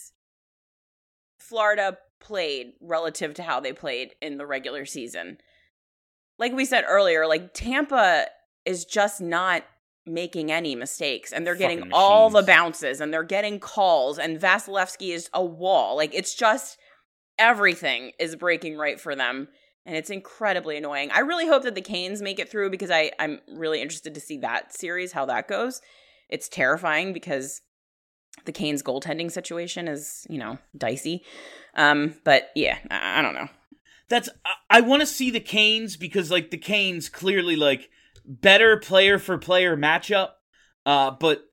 Florida played relative to how they played in the regular season, like we said earlier, Tampa is just not making any mistakes, and they're getting all the bounces, and they're getting calls, and Vasilevsky is a wall. It's just everything is breaking right for them, and it's incredibly annoying. I really hope that the Canes make it through because I'm really interested to see that series, how that goes. It's terrifying because the Canes goaltending situation is, dicey. But yeah, I don't know. I want to see the Canes because the Canes clearly better player for player matchup. But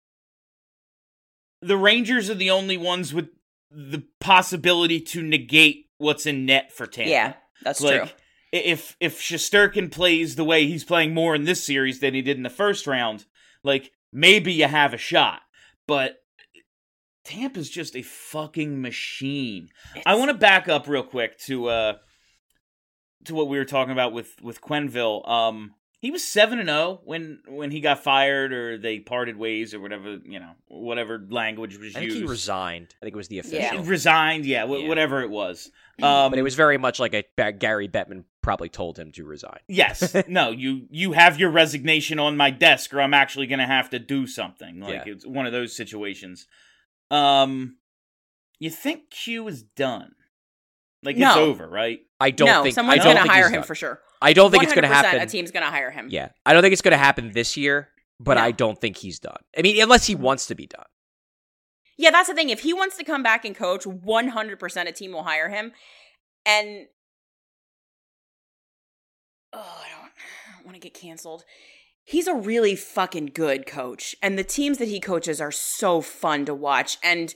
the Rangers are the only ones with the possibility to negate what's in net for Tampa. Yeah, that's true. If Shesterkin plays the way he's playing more in this series than he did in the first round, maybe you have a shot. But Tampa's just a fucking machine. I want to back up real quick to what we were talking about with Quenneville. He was 7-0 when he got fired or they parted ways or whatever language was used. I think he resigned. I think it was the official. Yeah. Resigned, whatever it was. But it was very much like Gary Bettman probably told him to resign. Yes. No, you have your resignation on my desk or I'm actually going to have to do something. It's one of those situations. You think Q is done? It's over, right? I don't think someone's going to hire him for sure. I don't think it's going to happen. A team's going to hire him. Yeah, I don't think it's going to happen this year, but I don't think he's done. I mean, unless he wants to be done. Yeah, that's the thing. If he wants to come back and coach, 100% a team will hire him. And I don't want to get canceled. He's a really fucking good coach, and the teams that he coaches are so fun to watch. And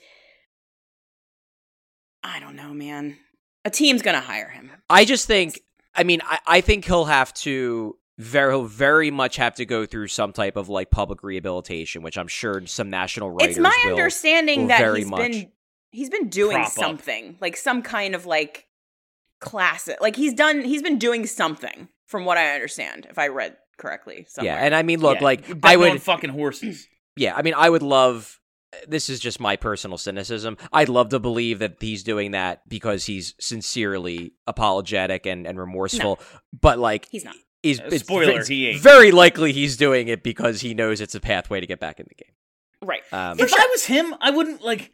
I don't know, man. A team's gonna hire him. I just think. I mean, I think he'll have to very much have to go through some type of like public rehabilitation, which I'm sure some national writers. It's my understanding that He's been doing prop up. something, like some kind of like classic. Like he's been doing something, from what I understand, if I read correctly somewhere. Yeah, and I mean, look, Yeah, like betting I would on fucking horses. Yeah, I mean, I would love. This is just my personal cynicism. I'd love to believe that he's doing that because he's sincerely apologetic and remorseful. But like, He's not. Spoiler, he ain't. Very likely he's doing it because he knows it's a pathway to get back in the game. Right. If I was him, I wouldn't like.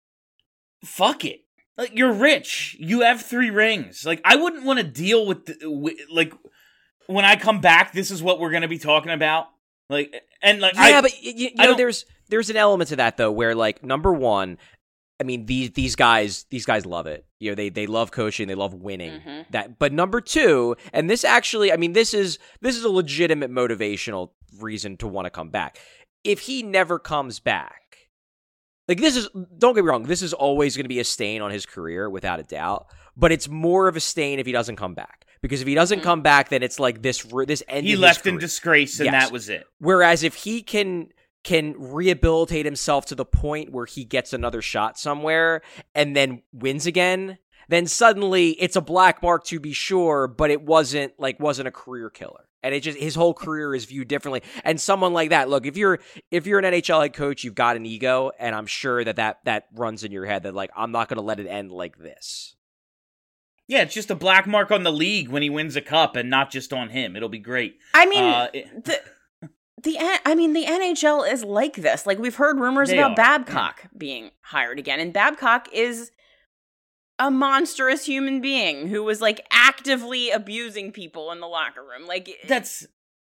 Fuck it. Like you're rich. You have 3 rings. Like I wouldn't want to deal with like when I come back. This is what we're going to be talking about. Like and like but you know, there's an element to that though, where like number one, I mean these guys love it. You know, they love coaching, they love winning. Mm-hmm. That, but number two, and this actually, I mean, this is a legitimate motivational reason to want to come back. If he never comes back, like this is, don't get me wrong, this is always going to be a stain on his career without a doubt. But it's more of a stain if he doesn't come back. Because if he doesn't come back, then it's like this ended. He left in disgrace, and that was it. Whereas if he can rehabilitate himself to the point where he gets another shot somewhere and then wins again, then suddenly it's a black mark to be sure, but it wasn't a career killer. And it just, his whole career is viewed differently. And someone like that, look, if you're an NHL head coach, you've got an ego, and I'm sure that runs in your head that like, I'm not going to let it end like this. Yeah, it's just a black mark on the league when he wins a cup, and not just on him. It'll be great. I mean, the NHL is like this. Like we've heard rumors about Babcock being hired again, and Babcock is a monstrous human being who was like actively abusing people in the locker room. Like that's,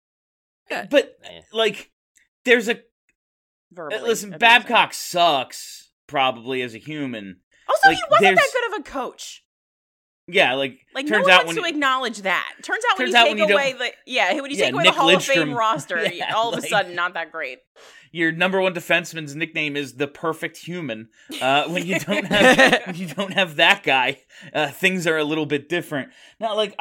but like there's a listen. Babcock sucks probably as a human. Also, he wasn't that good of a coach. Yeah, like turns no one wants to acknowledge that. Turns out when you take away the Hall of Fame roster, all of a sudden not that great. Your number one defenseman's nickname is the perfect human. When you don't have that guy, things are a little bit different. Now, like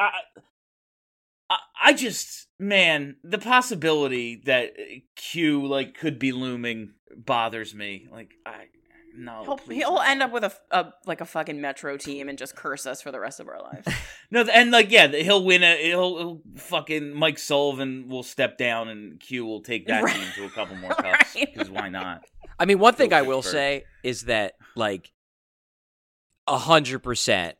I just, man, the possibility that Q like could be looming bothers me. Like he'll end up with a fucking Metro team and just curse us for the rest of our lives. No, and like he'll win he'll fucking Mike Sullivan will step down and Q will take that team to a couple more cups because why not? I mean, one thing I will say is that like 100%,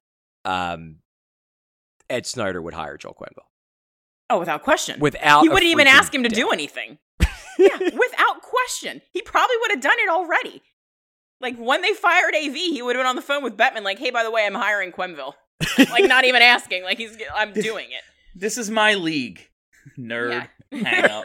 Ed Snyder would hire Joel Quenneville. Oh, without question. He wouldn't even ask him to do anything. Yeah, without question. He probably would have done it already. Like, when they fired AV, he would have been on the phone with Bettman, like, hey, by the way, I'm hiring Quenneville. Like, not even asking. Like, I'm doing it. This is my league. Nerd. Yeah. Hang up.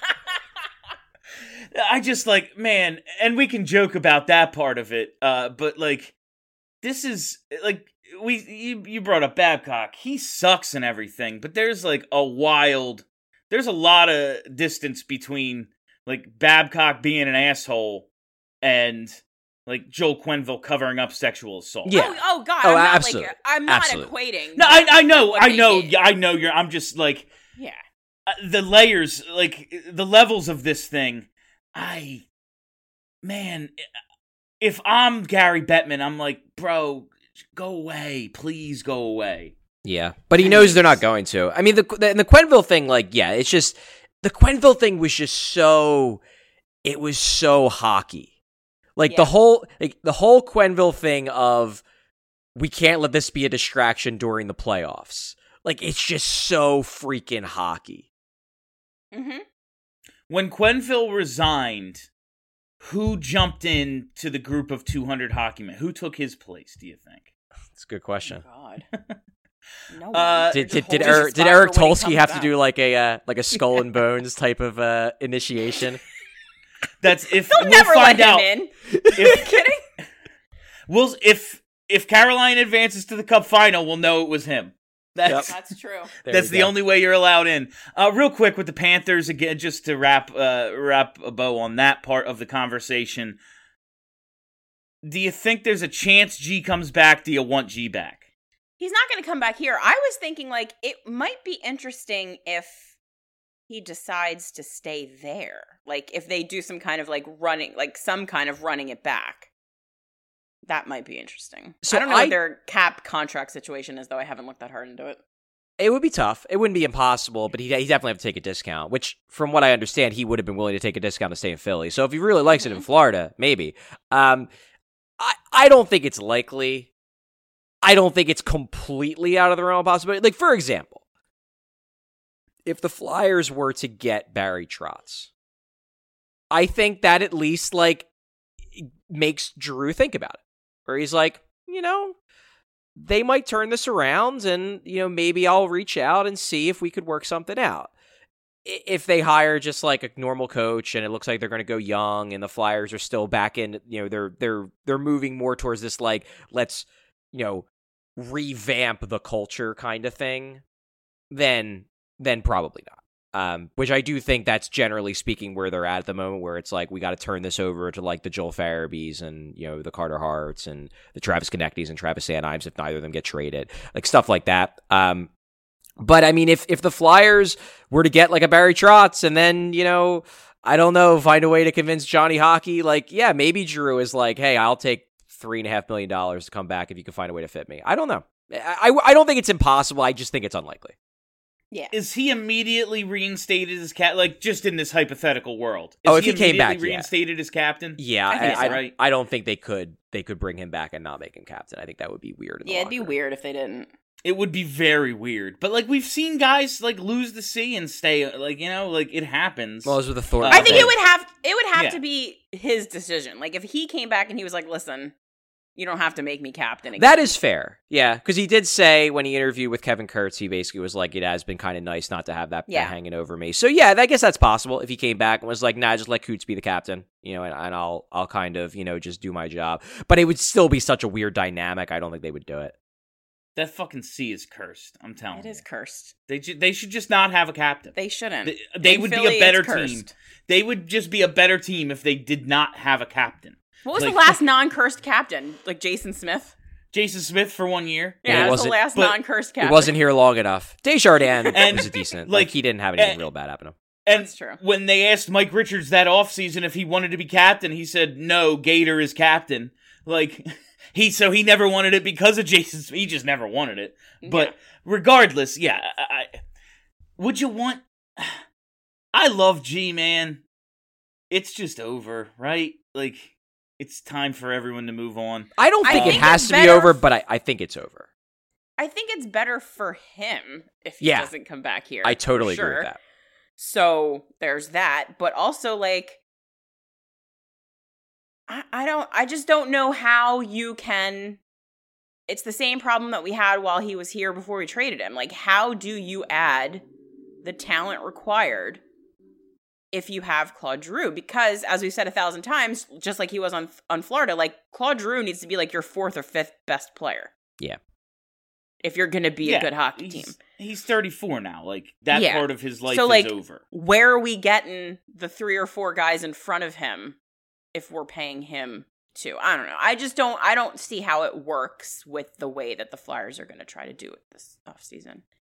I just, like, man, and we can joke about that part of it, but, like, this is, like, you brought up Babcock. He sucks and everything, but there's, like, there's a lot of distance between, like, Babcock being an asshole and like Joel Quenneville covering up sexual assault. Yeah. Oh God. I'm not equating. No, I know. I'm just like, yeah. The layers, like the levels of this thing. If I'm Gary Bettman, I'm like, bro, go away, please go away. Yeah, but he knows they're not going to. I mean, the Quenneville thing, like, yeah, it's just the Quenneville thing was just so. It was so hockey. Like the whole Quenneville thing of we can't let this be a distraction during the playoffs. Like it's just so freaking hockey. Mm-hmm. When Quenneville resigned, who jumped in to the group of 200 hockey men? Who took his place? Do you think? That's a good question. Oh, God. No. Did Eric Tulsky have to do like a Skull and Bones type of initiation? That's if they'll never let him in. Are you kidding? If Carolina advances to the Cup final, we'll know it was him. That's true. That's the only way you're allowed in. Real quick with the Panthers again, just to wrap a bow on that part of the conversation. Do you think there's a chance G comes back? Do you want G back? He's not going to come back here. I was thinking like it might be interesting if he decides to stay there. Like if they do some kind of like running it back. That might be interesting. So I don't know what their cap contract situation is, though. I haven't looked that hard into it. It would be tough. It wouldn't be impossible, but he definitely have to take a discount, which, from what I understand, he would have been willing to take a discount to stay in Philly. So if he really likes it in Florida, maybe. I don't think it's likely. I don't think it's completely out of the realm of possibility. Like, for example, if the Flyers were to get Barry Trotz, I think that at least, like, makes Drew think about it. Where he's like, they might turn this around and, maybe I'll reach out and see if we could work something out. If they hire just like a normal coach and it looks like they're going to go young and the Flyers are still back in, they're moving more towards this, like, let's, revamp the culture kind of thing, then probably not. Which I do think that's generally speaking where they're at the moment, where it's like, we got to turn this over to like the Joel Farabees and, the Carter Harts and the Travis Konechny's and Travis Sanheims if neither of them get traded, like stuff like that. But I mean, if the Flyers were to get like a Barry Trotz and then, I don't know, find a way to convince Johnny Hockey, like, yeah, maybe Drew is like, hey, I'll take $3.5 million to come back if you can find a way to fit me. I don't know. I don't think it's impossible. I just think it's unlikely. Yeah. Is he immediately reinstated as like just in this hypothetical world? If he came back, reinstated as captain? Yeah, I don't think they could bring him back and not make him captain. I think that would be weird. It'd be weird if they didn't. It would be very weird. But like we've seen guys like lose the C and stay, like, like it happens. Well, those were the Thor. I think it would have to be his decision. Like if he came back and he was like, listen, you don't have to make me captain again. That is fair. Yeah, because he did say when he interviewed with Kevin Kurtz, he basically was like, it has been kind of nice not to have that hanging over me. So yeah, I guess that's possible if he came back and was like, nah, just let Kurtz be the captain, and I'll kind of, just do my job. But it would still be such a weird dynamic. I don't think they would do it. That fucking C is cursed. I'm telling you. It is cursed. They should just not have a captain. They shouldn't. They would be a better team. They would just be a better team if they did not have a captain. What was the last non-cursed captain? Like Jason Smith? Jason Smith for 1 year? Yeah, it was the last non-cursed captain. It wasn't here long enough. Desjardins was decent. Like, he didn't have anything real bad happen to him. And that's true. When they asked Mike Richards that offseason if he wanted to be captain, he said, no, Gator is captain. Like, he never wanted it because of Jason Smith. He just never wanted it. But regardless, would you want... I love G, man. It's just over, right? Like... It's time for everyone to move on. I don't think it has to be over, but I think it's over. I think it's better for him if he doesn't come back here. I totally agree with that. So there's that. But also, like, I just don't know how you can. It's the same problem that we had while he was here before we traded him. Like, how do you add the talent required if you have Claude Giroux? Because, as we've said 1,000 times, just like he was on Florida, like, Claude Giroux needs to be, like, your 4th or 5th best player. Yeah. If you're going to be a good hockey team. He's 34 now. Like, that part of his life is over. Where are we getting the 3 or 4 guys in front of him if we're paying him to? I don't know. I don't see how it works with the way that the Flyers are going to try to do it this offseason.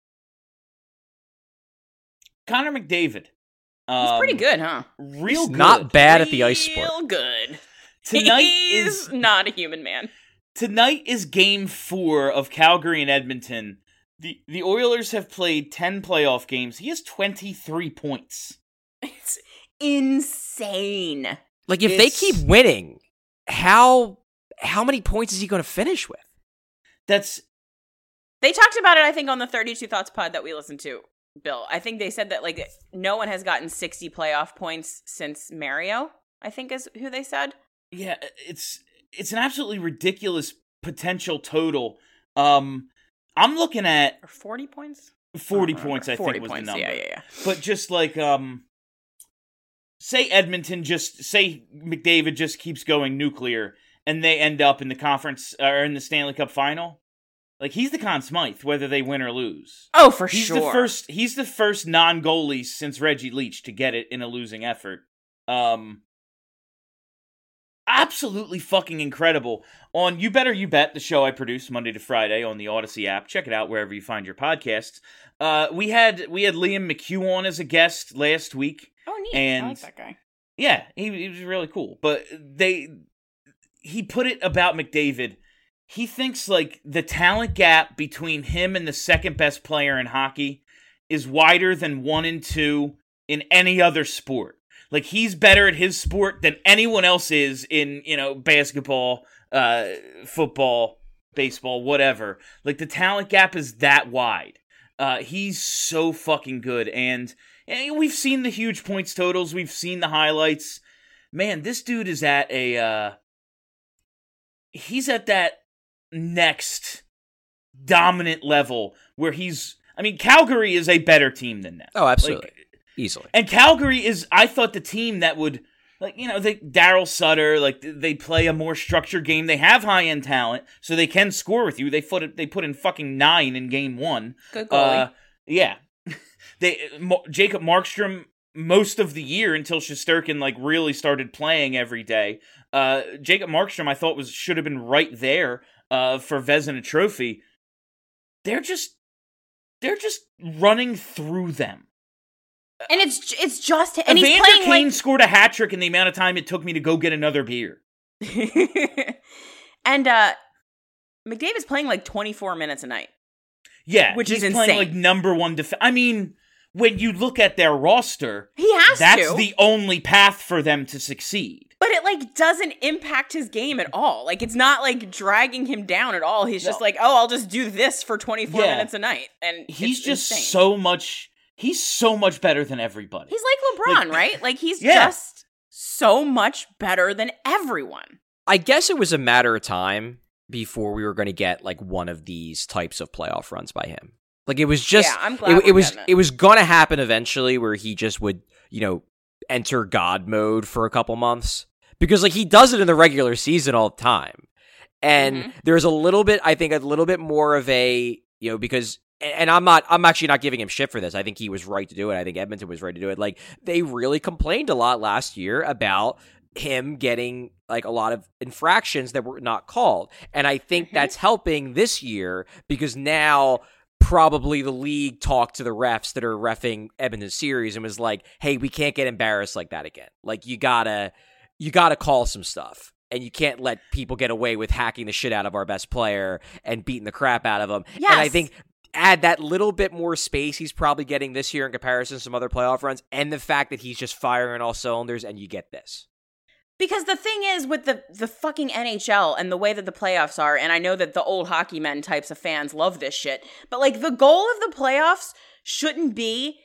Connor McDavid. He's pretty good, huh? Real good. Not bad at the ice sport. Real good. Tonight He's not a human man. Tonight is Game 4 of Calgary and Edmonton. The Oilers have played 10 playoff games. He has 23 points. It's insane. Like, if they keep winning, how many points is he going to finish with? They talked about it, I think, on the 32 Thoughts pod that we listened to. Bill, I think they said that, like, no one has gotten 60 playoff points since Mario, I think is who they said. Yeah, it's an absolutely ridiculous potential total. I'm looking at... Or 40 points? 40 points, I think, was the number. Yeah. But just like, say McDavid just keeps going nuclear, and they end up in the conference, or in the Stanley Cup final. Like, he's the Conn Smythe, whether they win or lose. Oh, for sure. He's the first non-goalie since Reggie Leach to get it in a losing effort. Absolutely fucking incredible. On You Better You Bet, the show I produce Monday to Friday on the Odyssey app. Check it out wherever you find your podcasts. We had Liam McHugh on as a guest last week. Oh, neat. And I like that guy. Yeah, he was really cool. But he put it about McDavid. He thinks like the talent gap between him and the second best player in hockey is wider than 1 and 2 in any other sport. Like, he's better at his sport than anyone else is in, basketball, football, baseball, whatever. Like, the talent gap is that wide. He's so fucking good. And we've seen the huge points totals. We've seen the highlights. Man, this dude is at he's at that next dominant level where Calgary is a better team than that. Oh, absolutely. Easily. And Calgary is, I thought, the team that would, Daryl Sutter, they play a more structured game. They have high-end talent, so they can score with you. They put in fucking 9 in game 1. Good goalie. Yeah. Jacob Markstrom, most of the year until Shesterkin, really started playing every day. Jacob Markstrom, I thought, should have been right there for Vezina Trophy. They're just running through them. And it's just and Evander he's playing Kane scored a hat trick in the amount of time it took me to go get another beer. And McDavid's playing 24 minutes a night. Yeah, which is he's insane. Playing number one defense. I mean, when you look at their roster, that's the only path for them to succeed. But it doesn't impact his game at all. It's not dragging him down at all. He's just I'll just do this for 24 minutes a night, and he's just insane. so much. He's so much better than everybody. He's like LeBron, right? He's just so much better than everyone. I guess it was a matter of time before we were going to get one of these types of playoff runs by him. It was just I'm glad it was going to happen eventually where he just would, enter God mode for a couple months because he does it in the regular season all the time. And there's a little bit more of a, because and I'm actually not giving him shit for this. I think he was right to do it. I think Edmonton was right to do it. They really complained a lot last year about him getting a lot of infractions that were not called. And I think that's helping this year because now probably the league talked to the refs that are reffing Edmonton series and was like, hey, we can't get embarrassed like that again. You gotta call some stuff. And you can't let people get away with hacking the shit out of our best player and beating the crap out of him. Yes. And I think add that little bit more space he's probably getting this year in comparison to some other playoff runs, and the fact that he's just firing on all cylinders, and you get this. Because the thing is, with the fucking NHL and the way that the playoffs are, and I know that the old hockey men types of fans love this shit, but the goal of the playoffs shouldn't be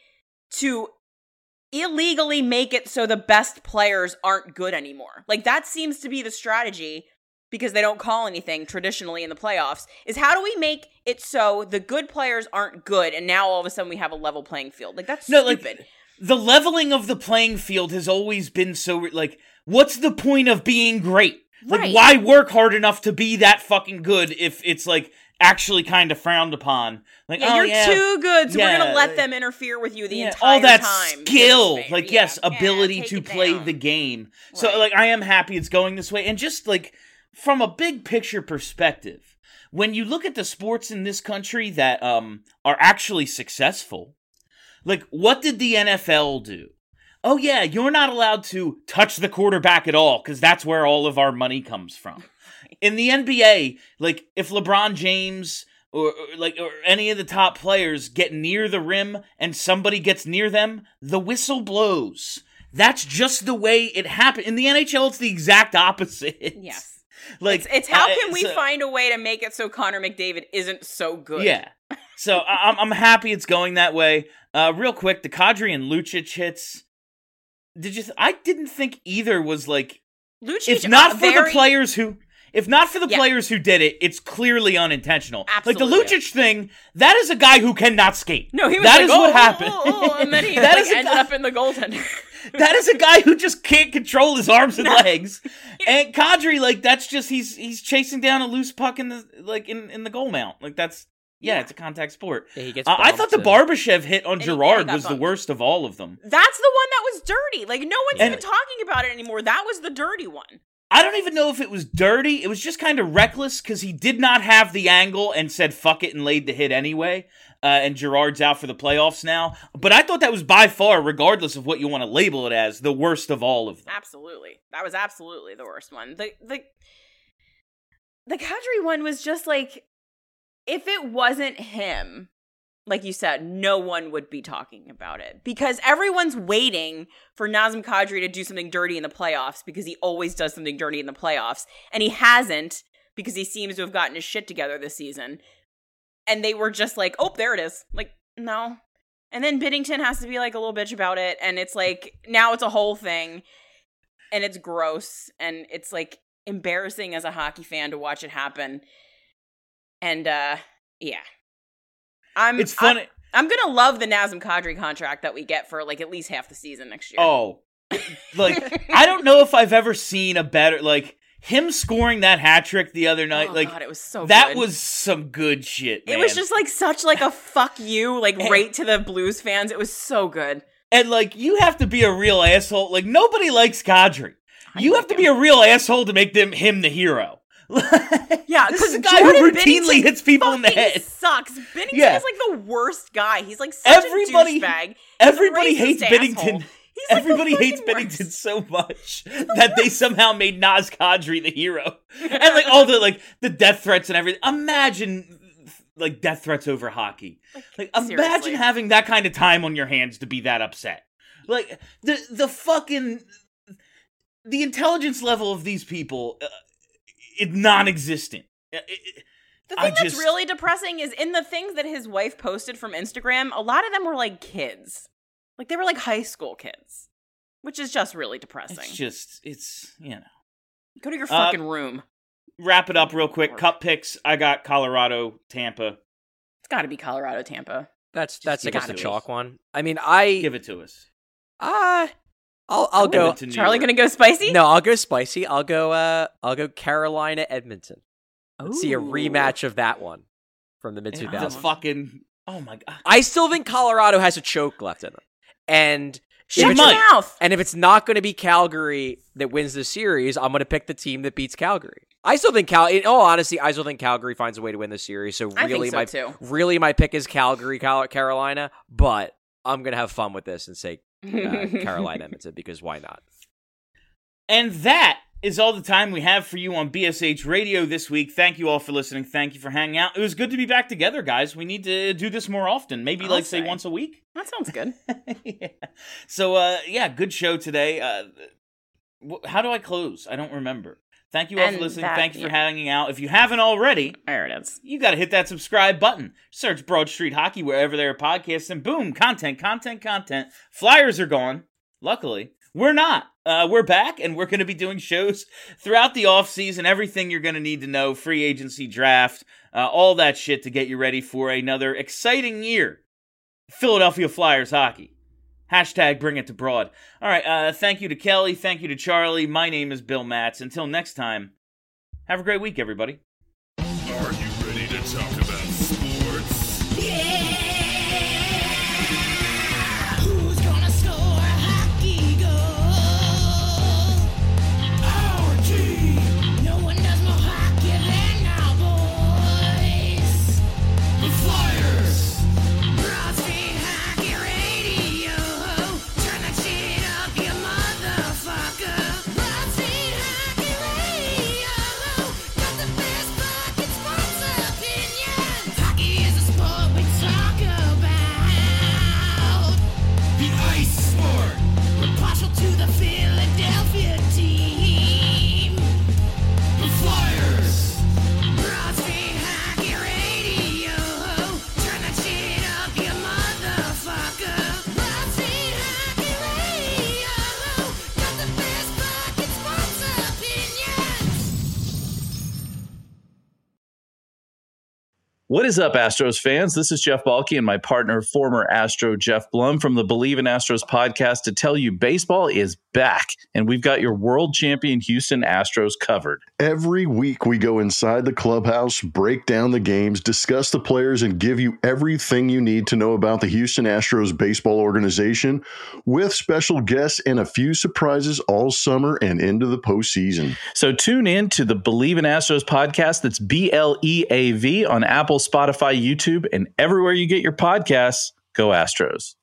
to illegally make it so the best players aren't good anymore. That seems to be the strategy, because they don't call anything traditionally in the playoffs, is how do we make it so the good players aren't good, and now all of a sudden we have a level playing field? That's stupid. The leveling of the playing field has always been so, what's the point of being great? Right. Why work hard enough to be that fucking good if it's, actually kind of frowned upon? You're too good, so we're going to let them interfere with you the entire all that time. Skill. Ability to play the game. Right. So, I am happy it's going this way. And just, from a big picture perspective, when you look at the sports in this country that are actually successful, what did the NFL do? Oh yeah, you're not allowed to touch the quarterback at all because that's where all of our money comes from. In the NBA, if LeBron James or any of the top players get near the rim and somebody gets near them, the whistle blows. That's just the way it happened. In the NHL, it's the exact opposite. Yes. It's how can we so, find a way to make it so Connor McDavid isn't so good? Yeah. So I'm happy it's going that way. Real quick, the Kadri and Lucic hits. I didn't think either was Lucic. If not for the players who did it, it's clearly unintentional. Absolutely. The Lucic thing, that is a guy who cannot skate. No, he was that is what happened. And then he ended up in the goaltender. That is a guy who just can't control his arms and legs. And Kadri, that's just he's chasing down a loose puck in the in the goal mount. It's a contact sport. Yeah, he gets I thought the Barbashev hit on Girard was the worst of all of them. That's the one that was dirty. No one's even talking about it anymore. That was the dirty one. I don't even know if it was dirty. It was just kind of reckless because he did not have the angle and said fuck it and laid the hit anyway. And Girard's out for the playoffs now. But I thought that was by far, regardless of what you want to label it as, the worst of all of them. Absolutely. That was absolutely the worst one. the Kadri one was just like, if it wasn't him, like you said, no one would be talking about it because everyone's waiting for Nazem Kadri to do something dirty in the playoffs because he always does something dirty in the playoffs. And he hasn't because he seems to have gotten his shit together this season. And they were just like, oh, there it is. Like, no. And then Binnington has to be like a little bitch about it. And it's like, now it's a whole thing. And it's gross. And it's like embarrassing as a hockey fan to watch it happen. And yeah. It's funny. I'm going to love the Nazem Kadri contract that we get for like at least half the season next year. Oh, like, I don't know if I've ever seen a better, like, him scoring that hat trick the other night. Like, God, it was so that good. was some good shit, man. It was just like such like a fuck you, like right to the Blues fans. It was so good. And like, you have to be a real asshole. Like, nobody likes Kadri. You have to be a real asshole to make him the hero. Yeah, because the guy who routinely hits people in the head sucks. Binnington is like the worst guy. He's like such a douchebag. Everybody hates Binnington. Asshole. Everybody hates Binnington so much that they somehow made Naz Kadri the hero. And like all the death threats and everything. Imagine like death threats over hockey. Like imagine having that kind of time on your hands to be that upset. Like the fucking the intelligence level of these people is non-existent. The thing that's really depressing is in the things that his wife posted from Instagram, a lot of them were like kids. Like, they were like high school kids, which is just really depressing. It's you know. Go to your fucking room. Wrap it up real quick. Cup picks. I got Colorado, Tampa. It's got to be Colorado, Tampa. That's I guess the chalk one. I mean, give it to us. I'll go. Charlie gonna go spicy? No, I'll go spicy. I'll go Carolina, Edmonton. Let's see a rematch of that one from the mid-2000s. Oh my God. I still think Colorado has a choke left in them. And shut your mouth. And if it's not going to be Calgary that wins the series, I'm going to pick the team that beats Calgary. I still think in all honesty, I still think Calgary finds a way to win the series. So really, my pick is Calgary, Carolina. But I'm going to have fun with this and say Carolina, Edmonton, because why not? And that is all the time we have for you on BSH Radio this week. Thank you all for listening. Thank you for hanging out. It was good to be back together, guys. We need to do this more often. Maybe say once a week. That sounds good. Yeah. So, good show today. How do I close? I don't remember. Thank you all for listening. Thank you for hanging out. If you haven't already, there it is. You got to hit that subscribe button. Search Broad Street Hockey wherever there are podcasts, and boom, content. Flyers are gone. Luckily, we're not. We're back, and we're going to be doing shows throughout the offseason, everything you're going to need to know, free agency, draft, all that shit to get you ready for another exciting year. Philadelphia Flyers hockey. Hashtag bring it to Broad. All right, thank you to Kelly. Thank you to Charlie. My name is Bill Matz. Until next time, have a great week, everybody. Are you ready to talk about sports? Yeah! Who's gonna score a hockey goal? Our team! No one does more hockey than our boys! The Flyers! Broad Street Hockey Radio! Turn that shit up, you motherfucker! Broad Street Hockey Radio! Got the best fucking sports opinions! Hockey is a sport we talk about! The ice sport! We're partial to the Philadelphia team! The Flyers! Broad Street Hockey Radio! Turn that shit up, you motherfucker! Broad Street Hockey Radio! Got the best fucking sports opinions! What is up, Astros fans? This is Jeff Balke and my partner, former Astro Jeff Blum from the Believe in Astros podcast to tell you baseball is back, and we've got your world champion Houston Astros covered. Every week we go inside the clubhouse, break down the games, discuss the players, and give you everything you need to know about the Houston Astros baseball organization with special guests and a few surprises all summer and into the postseason. So tune in to the Believe in Astros podcast. That's BLEAV on Apple, Spotify, YouTube, and everywhere you get your podcasts. Go Astros.